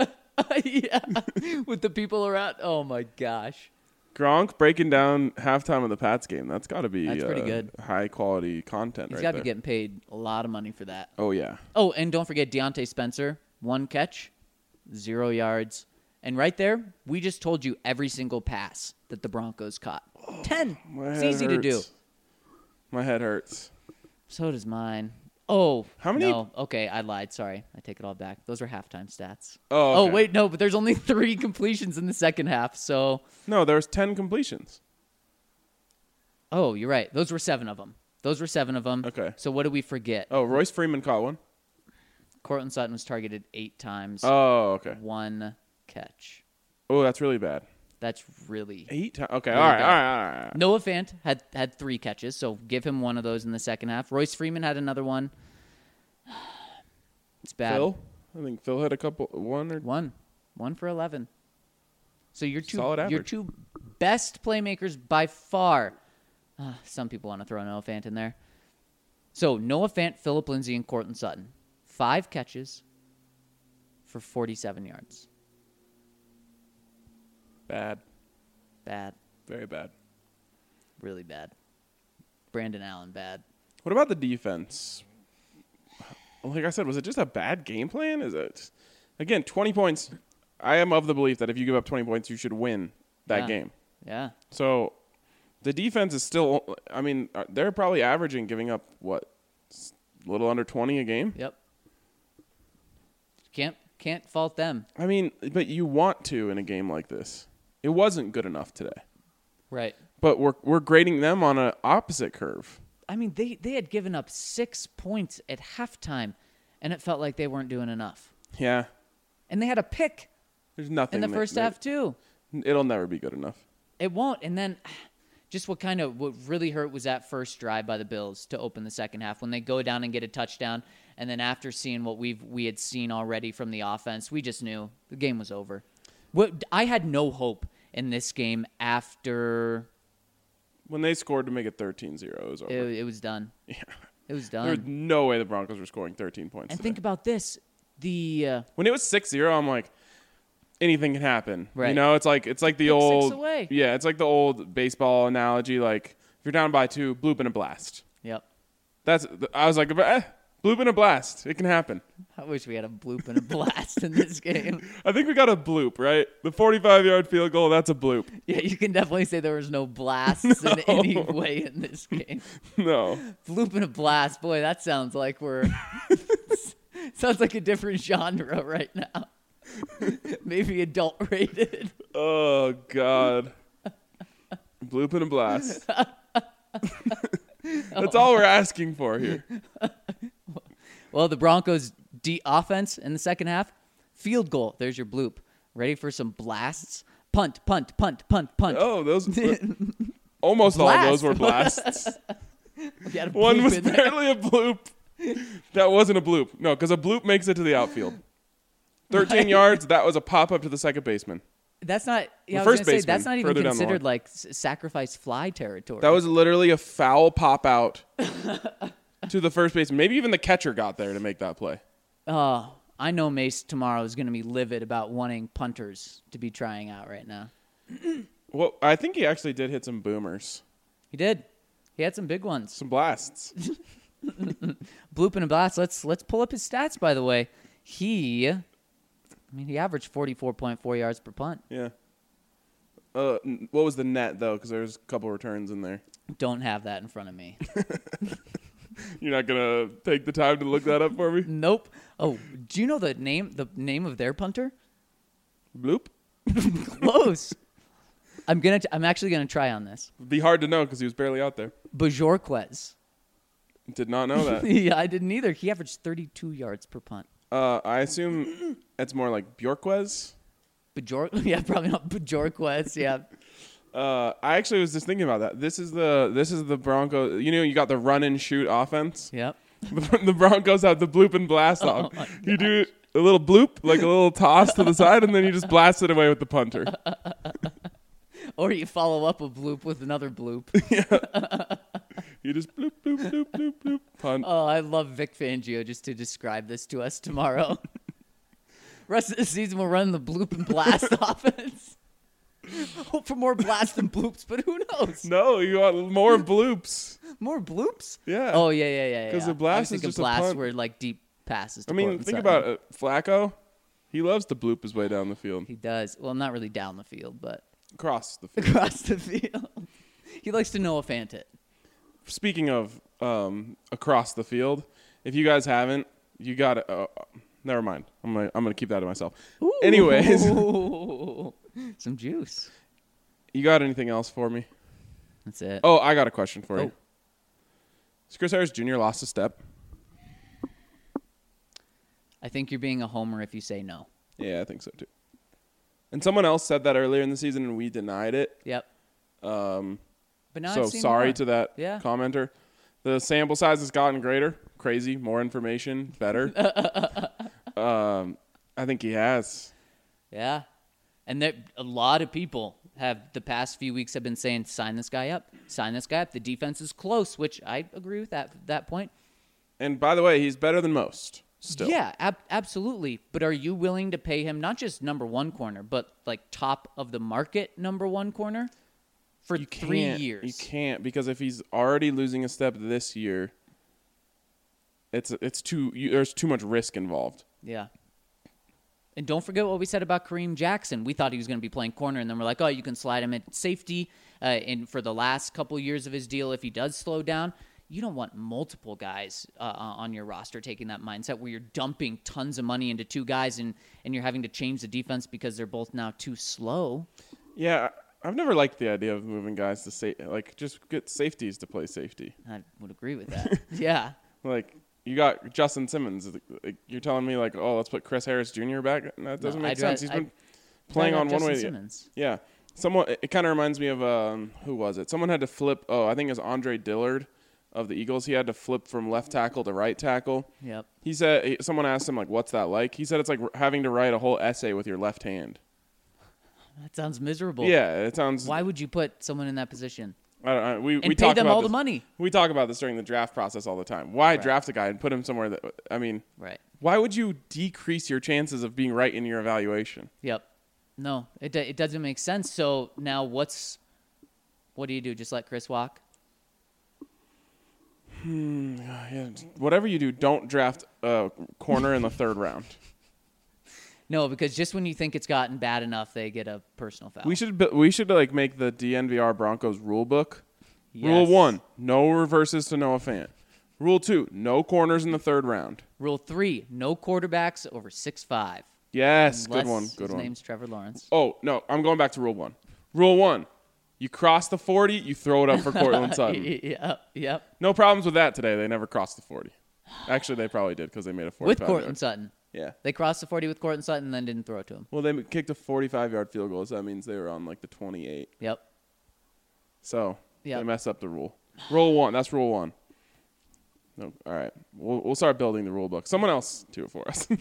Yeah, with the people around. Oh my gosh. Gronk breaking down halftime of the Pats game. That's got to be That's pretty uh, good. high quality content. He's right got to there. be getting paid a lot of money for that. Oh yeah. Oh, and don't forget Deontay Spencer, one catch, zero yards. And right there, we just told you every single pass that the Broncos caught. Ten. My It's head easy to do. hurts. My head hurts. So does mine. Oh, How many- No. Okay, I lied. Sorry. I take it all back. Those are halftime stats. Oh, Oh, okay. wait, no, but there's only three completions in the second half. So, No, there was ten completions. oh, you're right. Those were seven of them. Those were seven of them. Okay. So what did we forget? Oh, Royce Freeman caught one. Cortland Sutton was targeted eight times. Oh, okay. One catch. Oh, that's really bad. That's really. Eight times. Okay, Really all right, bad. all right, all right. Noah Fant had, had three catches, so give him one of those in the second half. Royce Freeman had another one. It's bad. Phil, I think Phil had a couple. One or One. One for eleven. So your two Solid your average. two best playmakers by far. Uh, some people want to throw Noah Fant in there. So Noah Fant, Phillip Lindsay, and Cortland Sutton. Five catches for forty-seven yards. bad, Bad. very bad. Really bad. Brandon Allen, bad. What about the defense? Like I said, was it just a bad game plan? Is it again twenty points? I am of the belief that if you give up twenty points, you should win that Yeah. game. Yeah. So the defense is still. I mean, uh, they're probably averaging giving up what, a little under twenty a game. Yep. Can't can't fault them. I mean, but you want to in a game like this. It wasn't good enough today. Right. But we're we're grading them on an opposite curve. I mean, they, they had given up six points at halftime, and it felt like they weren't doing enough. Yeah, And they had a pick there's nothing in the that- first that- half, too. It'll never be good enough. It won't. And then just what kind of what really hurt was that first drive by the Bills to open the second half when they go down and get a touchdown, and then after seeing what we've we had seen already from the offense, we just knew the game was over. What I had no hope in this game after when they scored to make it thirteen zero, it was over. it, it was done. Yeah. It was There was done. no way the Broncos were scoring thirteen points. And today. think about this: the uh, When it was six zero, I'm like, anything can happen. Right. You know, it's like it's like the Pick six old away. Yeah, it's like the old baseball analogy. Like if you're down by two, bloop and a blast. yep. That's I was like, eh, bloop and a blast. It can happen. I wish we had a bloop and a blast in this game. I think we got a bloop, right? The forty-five yard field goal, that's a bloop. Yeah, you can definitely say there was no blasts in any way in this game. No. Bloop and a blast, boy, that sounds like we're sounds like a different genre right now. Maybe adult rated. Oh God. Bloop and a blast. That's all we're asking for here. Well, the Broncos' D offense in the second half, field goal. There's your bloop. Ready for some blasts? Punt, punt, punt, punt, punt. Oh, those almost all Blast. those were blasts. We got a One bloop was in there. barely a bloop. That wasn't a bloop. No, because a bloop makes it to the outfield. thirteen Right. yards, that was a pop up to the second baseman. That's not. Yeah, The I was first gonna say, baseman, that's not even further down the considered line. like s- sacrifice fly territory. That was literally a foul pop out to the first baseman. Maybe even the catcher got there to make that play. Oh, I know Mace tomorrow is going to be livid about wanting punters to be trying out right now. Well, I think he actually did hit some boomers, He did. He had some big ones. some blasts. Bloop and a blast. Let's let's pull up his stats. By the way, he, I mean, he averaged forty-four point four yards per punt. Yeah. Uh, n- what was the net though? Because there's a couple returns in there. Don't have that in front of me. You're not gonna take the time to look that up for me? Nope. Oh, do you know the name? The name of their punter? Bloop. Close. I'm gonna. T- I'm actually gonna try on this. It'd be hard to know because he was barely out there. Bajorquez. Did not know that. Yeah, I didn't either. He averaged thirty-two yards per punt. Uh, I assume it's more like Bjorquez. Bajor. Yeah, probably not Bajorquez. Yeah. Uh, I actually was just thinking about that. This is the this is the Broncos. You know, you got the run and shoot offense. Yep. The Broncos have the bloop and blast Oh off. my You do a little bloop, like a little toss to the side, and then you just blast it away with the punter. Or you follow up a bloop with another bloop. You just bloop, bloop, bloop, bloop, bloop, punt. Oh, I love Vic Fangio just to describe this to us tomorrow. Rest of the season, we'll run the bloop and blast offense. Hope for more blasts and bloops, but who knows? No, you want more bloops. More bloops? Yeah. Oh, yeah, yeah, yeah. 'Cause yeah. the blast I was is thinking just a blasts punt. were like deep passes. To I mean, Courtland think Sutton. about it. Flacco, he loves to bloop his way down the field, He does. Well, not really down the field, but across the field. across the field. He likes to Noah Fant it. Speaking of um, across the field, if you guys haven't, you got to. Uh, never mind. I'm gonna I'm gonna keep that to myself. Anyways, Ooh, some juice. you got anything else for me? That's it. Oh, I got a question for Oh. you. Has Chris Harris Junior lost a step? I think you're being a homer if you say no. Yeah, I think so too. And someone else said that earlier in the season, and we denied it. Yep. Um, But now so I've seen sorry more. to that Yeah. commenter. The sample size has gotten greater. Crazy. More information. Better. um, I think he has. Yeah. And there, a lot of people have the past few weeks have been saying, sign this guy up. Sign this guy up. The defense is close, which I agree with that that point. And by the way, he's better than most. Still. Yeah, ab- absolutely. But are you willing to pay him not just number one corner, but like top of the market number one corner for You three can't, years? You can't because if he's already losing a step this year, it's it's too you, there's too much risk involved. Yeah. And don't forget what we said about Kareem Jackson. We thought he was going to be playing corner, and then we're like, oh, you can slide him at safety. Uh, and for the last couple years of his deal, if he does slow down, you don't want multiple guys uh, on your roster taking that mindset where you're dumping tons of money into two guys and, and you're having to change the defense because they're both now too slow. Yeah, I've never liked the idea of moving guys to say like just get safeties to play safety. I would agree with that. Yeah. Like you got Justin Simmons. Like, you're telling me like, oh, let's put Chris Harris Junior back. That doesn't No, make I'd sense. ra- He's been I'd playing rather on have one way. Justin to- Simmons. Yeah, Someone, it kind of reminds me of, um, who was it? Someone had to flip, oh, I think it was Andre Dillard of the Eagles. He had to flip from left tackle to right tackle. Yep. He said, someone asked him, like, what's that like? He said it's like having to write a whole essay with your left hand. That sounds miserable. Yeah, it sounds. Why would you put someone in that position? I don't know. We, And we pay talk them about all this, the money. We talk about this during the draft process all the time. Why Right. draft a guy and put him somewhere that, I mean, Right. why would you decrease your chances of being right in your evaluation? Yep. No, it do- it doesn't make sense. So now what's what do you do? Just let Chris walk? Yeah, whatever you do, don't draft a corner in the third round. No, because just when you think it's gotten bad enough, they get a personal foul. We should bu- we should like make the D N V R Broncos rule book. Rule Yes. one: no reverses to Noah Fant. Rule two: no corners in the third round. Rule three: no quarterbacks over six five. Yes, Unless good one, good his one. name's Trevor Lawrence. Oh no, I'm going back to rule one. Rule one: you cross the forty, you throw it up for Cortland Sutton. Yep, yep. No problems with that today. They never crossed the forty. Actually, they probably did because they made a forty-five. With Cortland yard. Sutton. Yeah. They crossed the forty with Cortland Sutton and then didn't throw it to him. Well, they kicked a forty-five yard field goal, so that means they were on like the twenty-eight. Yep. So Yep. they messed up the rule. Rule one. That's rule one. No, all right. We'll we'll start building the rule book. Someone else do it for us.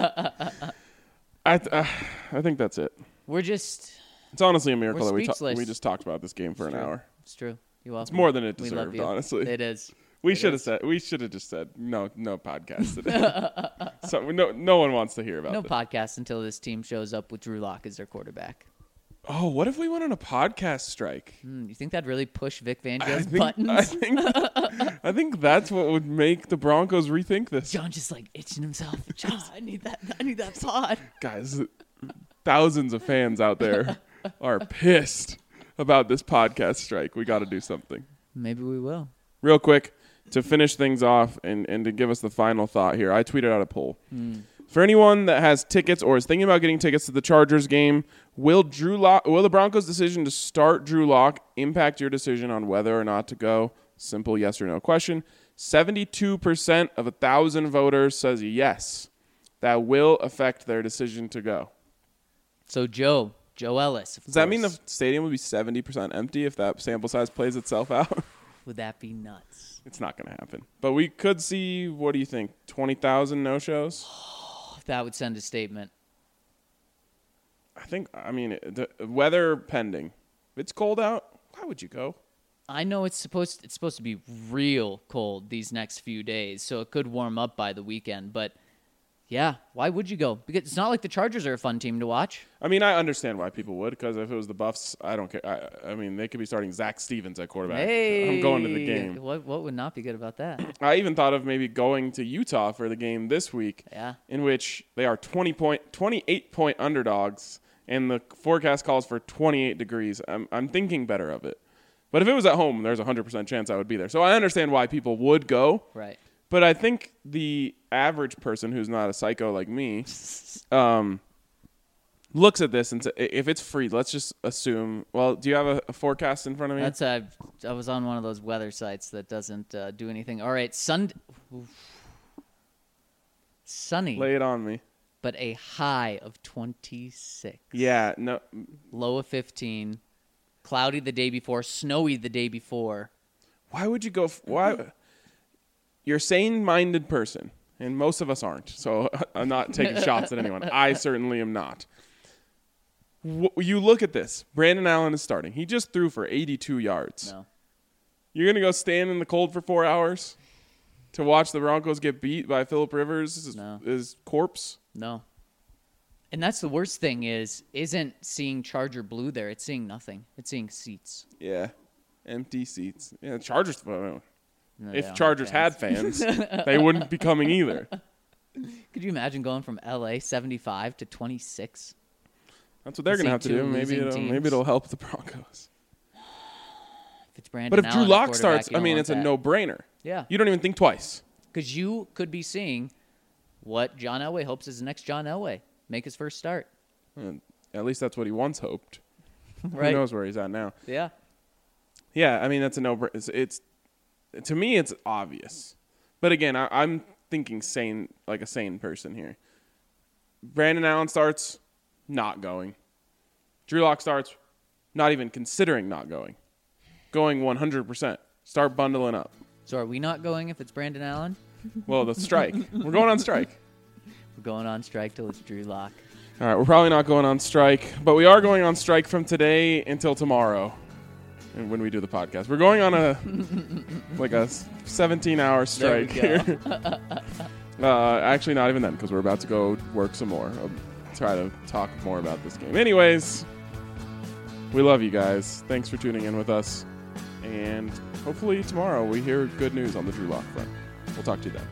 I th- uh, I think that's it. We're just It's honestly a miracle We're that we ta- speechless. we just talked about this game for It's an true. hour. It's true. You're welcome. It's more than it We love deserved, you. honestly. It is. We It should have is. said we should have just said no no podcast today. So no no one wants to hear about No this. podcast until this team shows up with Drew Lock as their quarterback. Oh, what if we went on a podcast strike? Hmm, you think that'd really push Vic I Fangio's think, buttons? I think I think that's what would make the Broncos rethink this. John just like itching himself. John, I need that. I need that pod. Guys, thousands of fans out there are pissed about this podcast strike. We got to do something. Maybe we will. Real quick, to finish things off and, and to give us the final thought here, I tweeted out a poll. For anyone that has tickets or is thinking about getting tickets to the Chargers game, will Drew Lock, will the Broncos' decision to start Drew Lock impact your decision on whether or not to go? Simple yes or no question. seventy-two percent of one thousand voters says yes. That will affect their decision to go. So Joe, Joe Ellis. of Does that mean course. the stadium would be seventy percent empty if that sample size plays itself out? Would that be nuts? It's not going to happen. But we could see, what do you think, twenty thousand no-shows? That would send a statement. I think, I mean, the weather pending. If it's cold out, why would you go? I know it's supposed it's supposed to be real cold these next few days, so it could warm up by the weekend. But yeah, why would you go? Because it's not like the Chargers are a fun team to watch. I mean, I understand why people would, because if it was the Buffs, I don't care. I, I mean, they could be starting Zach Stevens at quarterback. Hey, I'm going to the game. What what would not be good about that? I even thought of maybe going to Utah for the game this week, Yeah. in which they are twenty point, twenty-eight point underdogs, and the forecast calls for twenty-eight degrees. I'm, I'm thinking better of it. But if it was at home, there's a one hundred percent chance I would be there. So I understand why people would go. Right. But I think the average person who's not a psycho like me um, looks at this and says, if it's free, let's just assume. Well, do you have a, a forecast in front of me? That's uh, I was on one of those weather sites that doesn't uh, do anything. All right, sun, sunny, Lay it on me. but a high of twenty-six. Yeah, no. Low of fifteen. Cloudy the day before. Snowy the day before. Why would you go? F- why? You're a sane-minded person, and most of us aren't. So I'm not taking shots at anyone. I certainly am not. W- you look at this. Brandon Allen is starting. He just threw for eighty-two yards. No. You're going to go stand in the cold for four hours to watch the Broncos get beat by Phillip Rivers' No. his corpse? No. And that's the worst thing is, isn't seeing Charger blue there. It's seeing nothing. It's seeing seats. Yeah. Empty seats. Yeah, Chargers. No, they If don't Chargers have had fans, they wouldn't be coming either. Could you imagine going from L A seventy-five to twenty-six? That's what they're To going to see have to two do. Maybe losing it'll, teams. maybe it'll help the Broncos. If it's Brandon But if Drew Allen at Lock quarterback, starts, you I don't mean, want it's a that. no-brainer. Yeah. You don't even think twice. Because you could be seeing what John Elway hopes is the next John Elway. Make his first start. And at least that's what he once hoped. Right. Who knows where he's at now? Yeah. Yeah, I mean, that's a no-brainer. It's, it's to me, it's obvious. But again, I, I'm thinking sane, like a sane person here. Brandon Allen starts, not going. Drew Lock starts, not even considering not going. Going one hundred percent. Start bundling up. So are we not going if it's Brandon Allen? Well, the strike. We're going on strike. We're going on strike till it's Drew Lock. All right, we're probably not going on strike, but we are going on strike from today until tomorrow. And when we do the podcast, we're going on a like a seventeen-hour strike here. uh, actually, not even then, because we're about to go work some more. I'll try to talk more about this game. Anyways, we love you guys. Thanks for tuning in with us, and hopefully tomorrow we hear good news on the Drew Lock front. We'll talk to you then.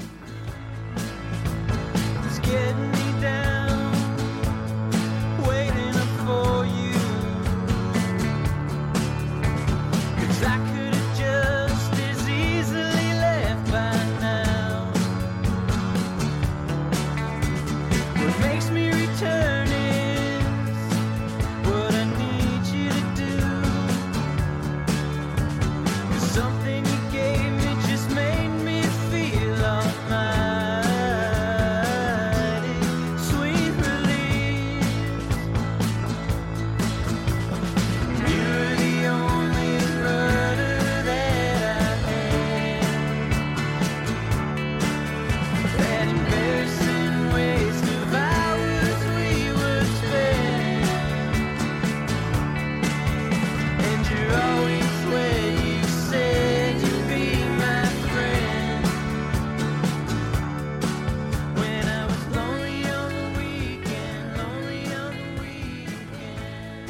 It's getting me down, waiting up for you. 'Cause I could have just as easily left by now. What makes me return is what I need you to do. 'Cause something you gave me just made me feel almighty. Sweet release. You were the only rudder that I had. That embarrassing waste of hours we would spend. And you're always where you said you'd be my friend. When I was lonely on the weekend, lonely on the weekend.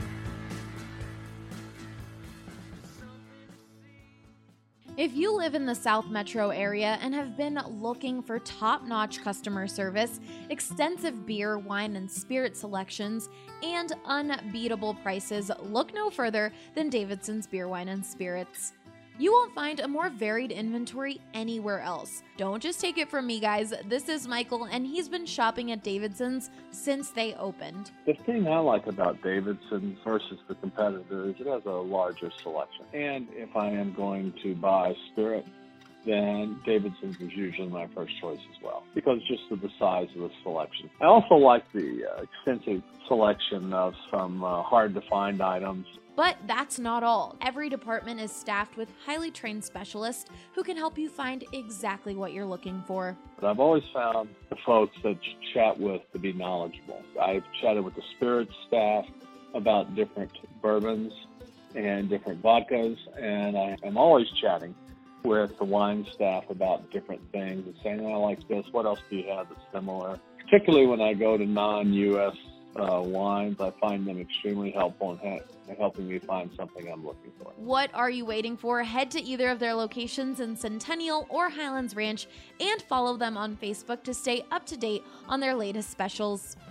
If you live in the South Metro area and have been looking for top-notch customer service, extensive beer, wine, and spirit selections, and unbeatable prices, look no further than Davidson's Beer, Wine, and Spirits. You won't find a more varied inventory anywhere else. Don't just take it from me, guys. This is Michael, and he's been shopping at Davidson's since they opened. The thing I like about Davidson versus the competitor is it has a larger selection. And if I am going to buy spirit, then Davidson's is usually my first choice as well, because just of the size of the selection. I also like the uh, extensive selection of some uh, hard-to-find items. But that's not all. Every department is staffed with highly trained specialists who can help you find exactly what you're looking for. But I've always found the folks that you chat with to be knowledgeable. I've chatted with the spirits staff about different bourbons and different vodkas, and I am always chatting with the wine staff about different things and saying, oh, I like this, what else do you have that's similar? Particularly when I go to non-U S uh, wines, I find them extremely helpful in ha- helping me find something I'm looking for. What are you waiting for? Head to either of their locations in Centennial or Highlands Ranch and follow them on Facebook to stay up to date on their latest specials.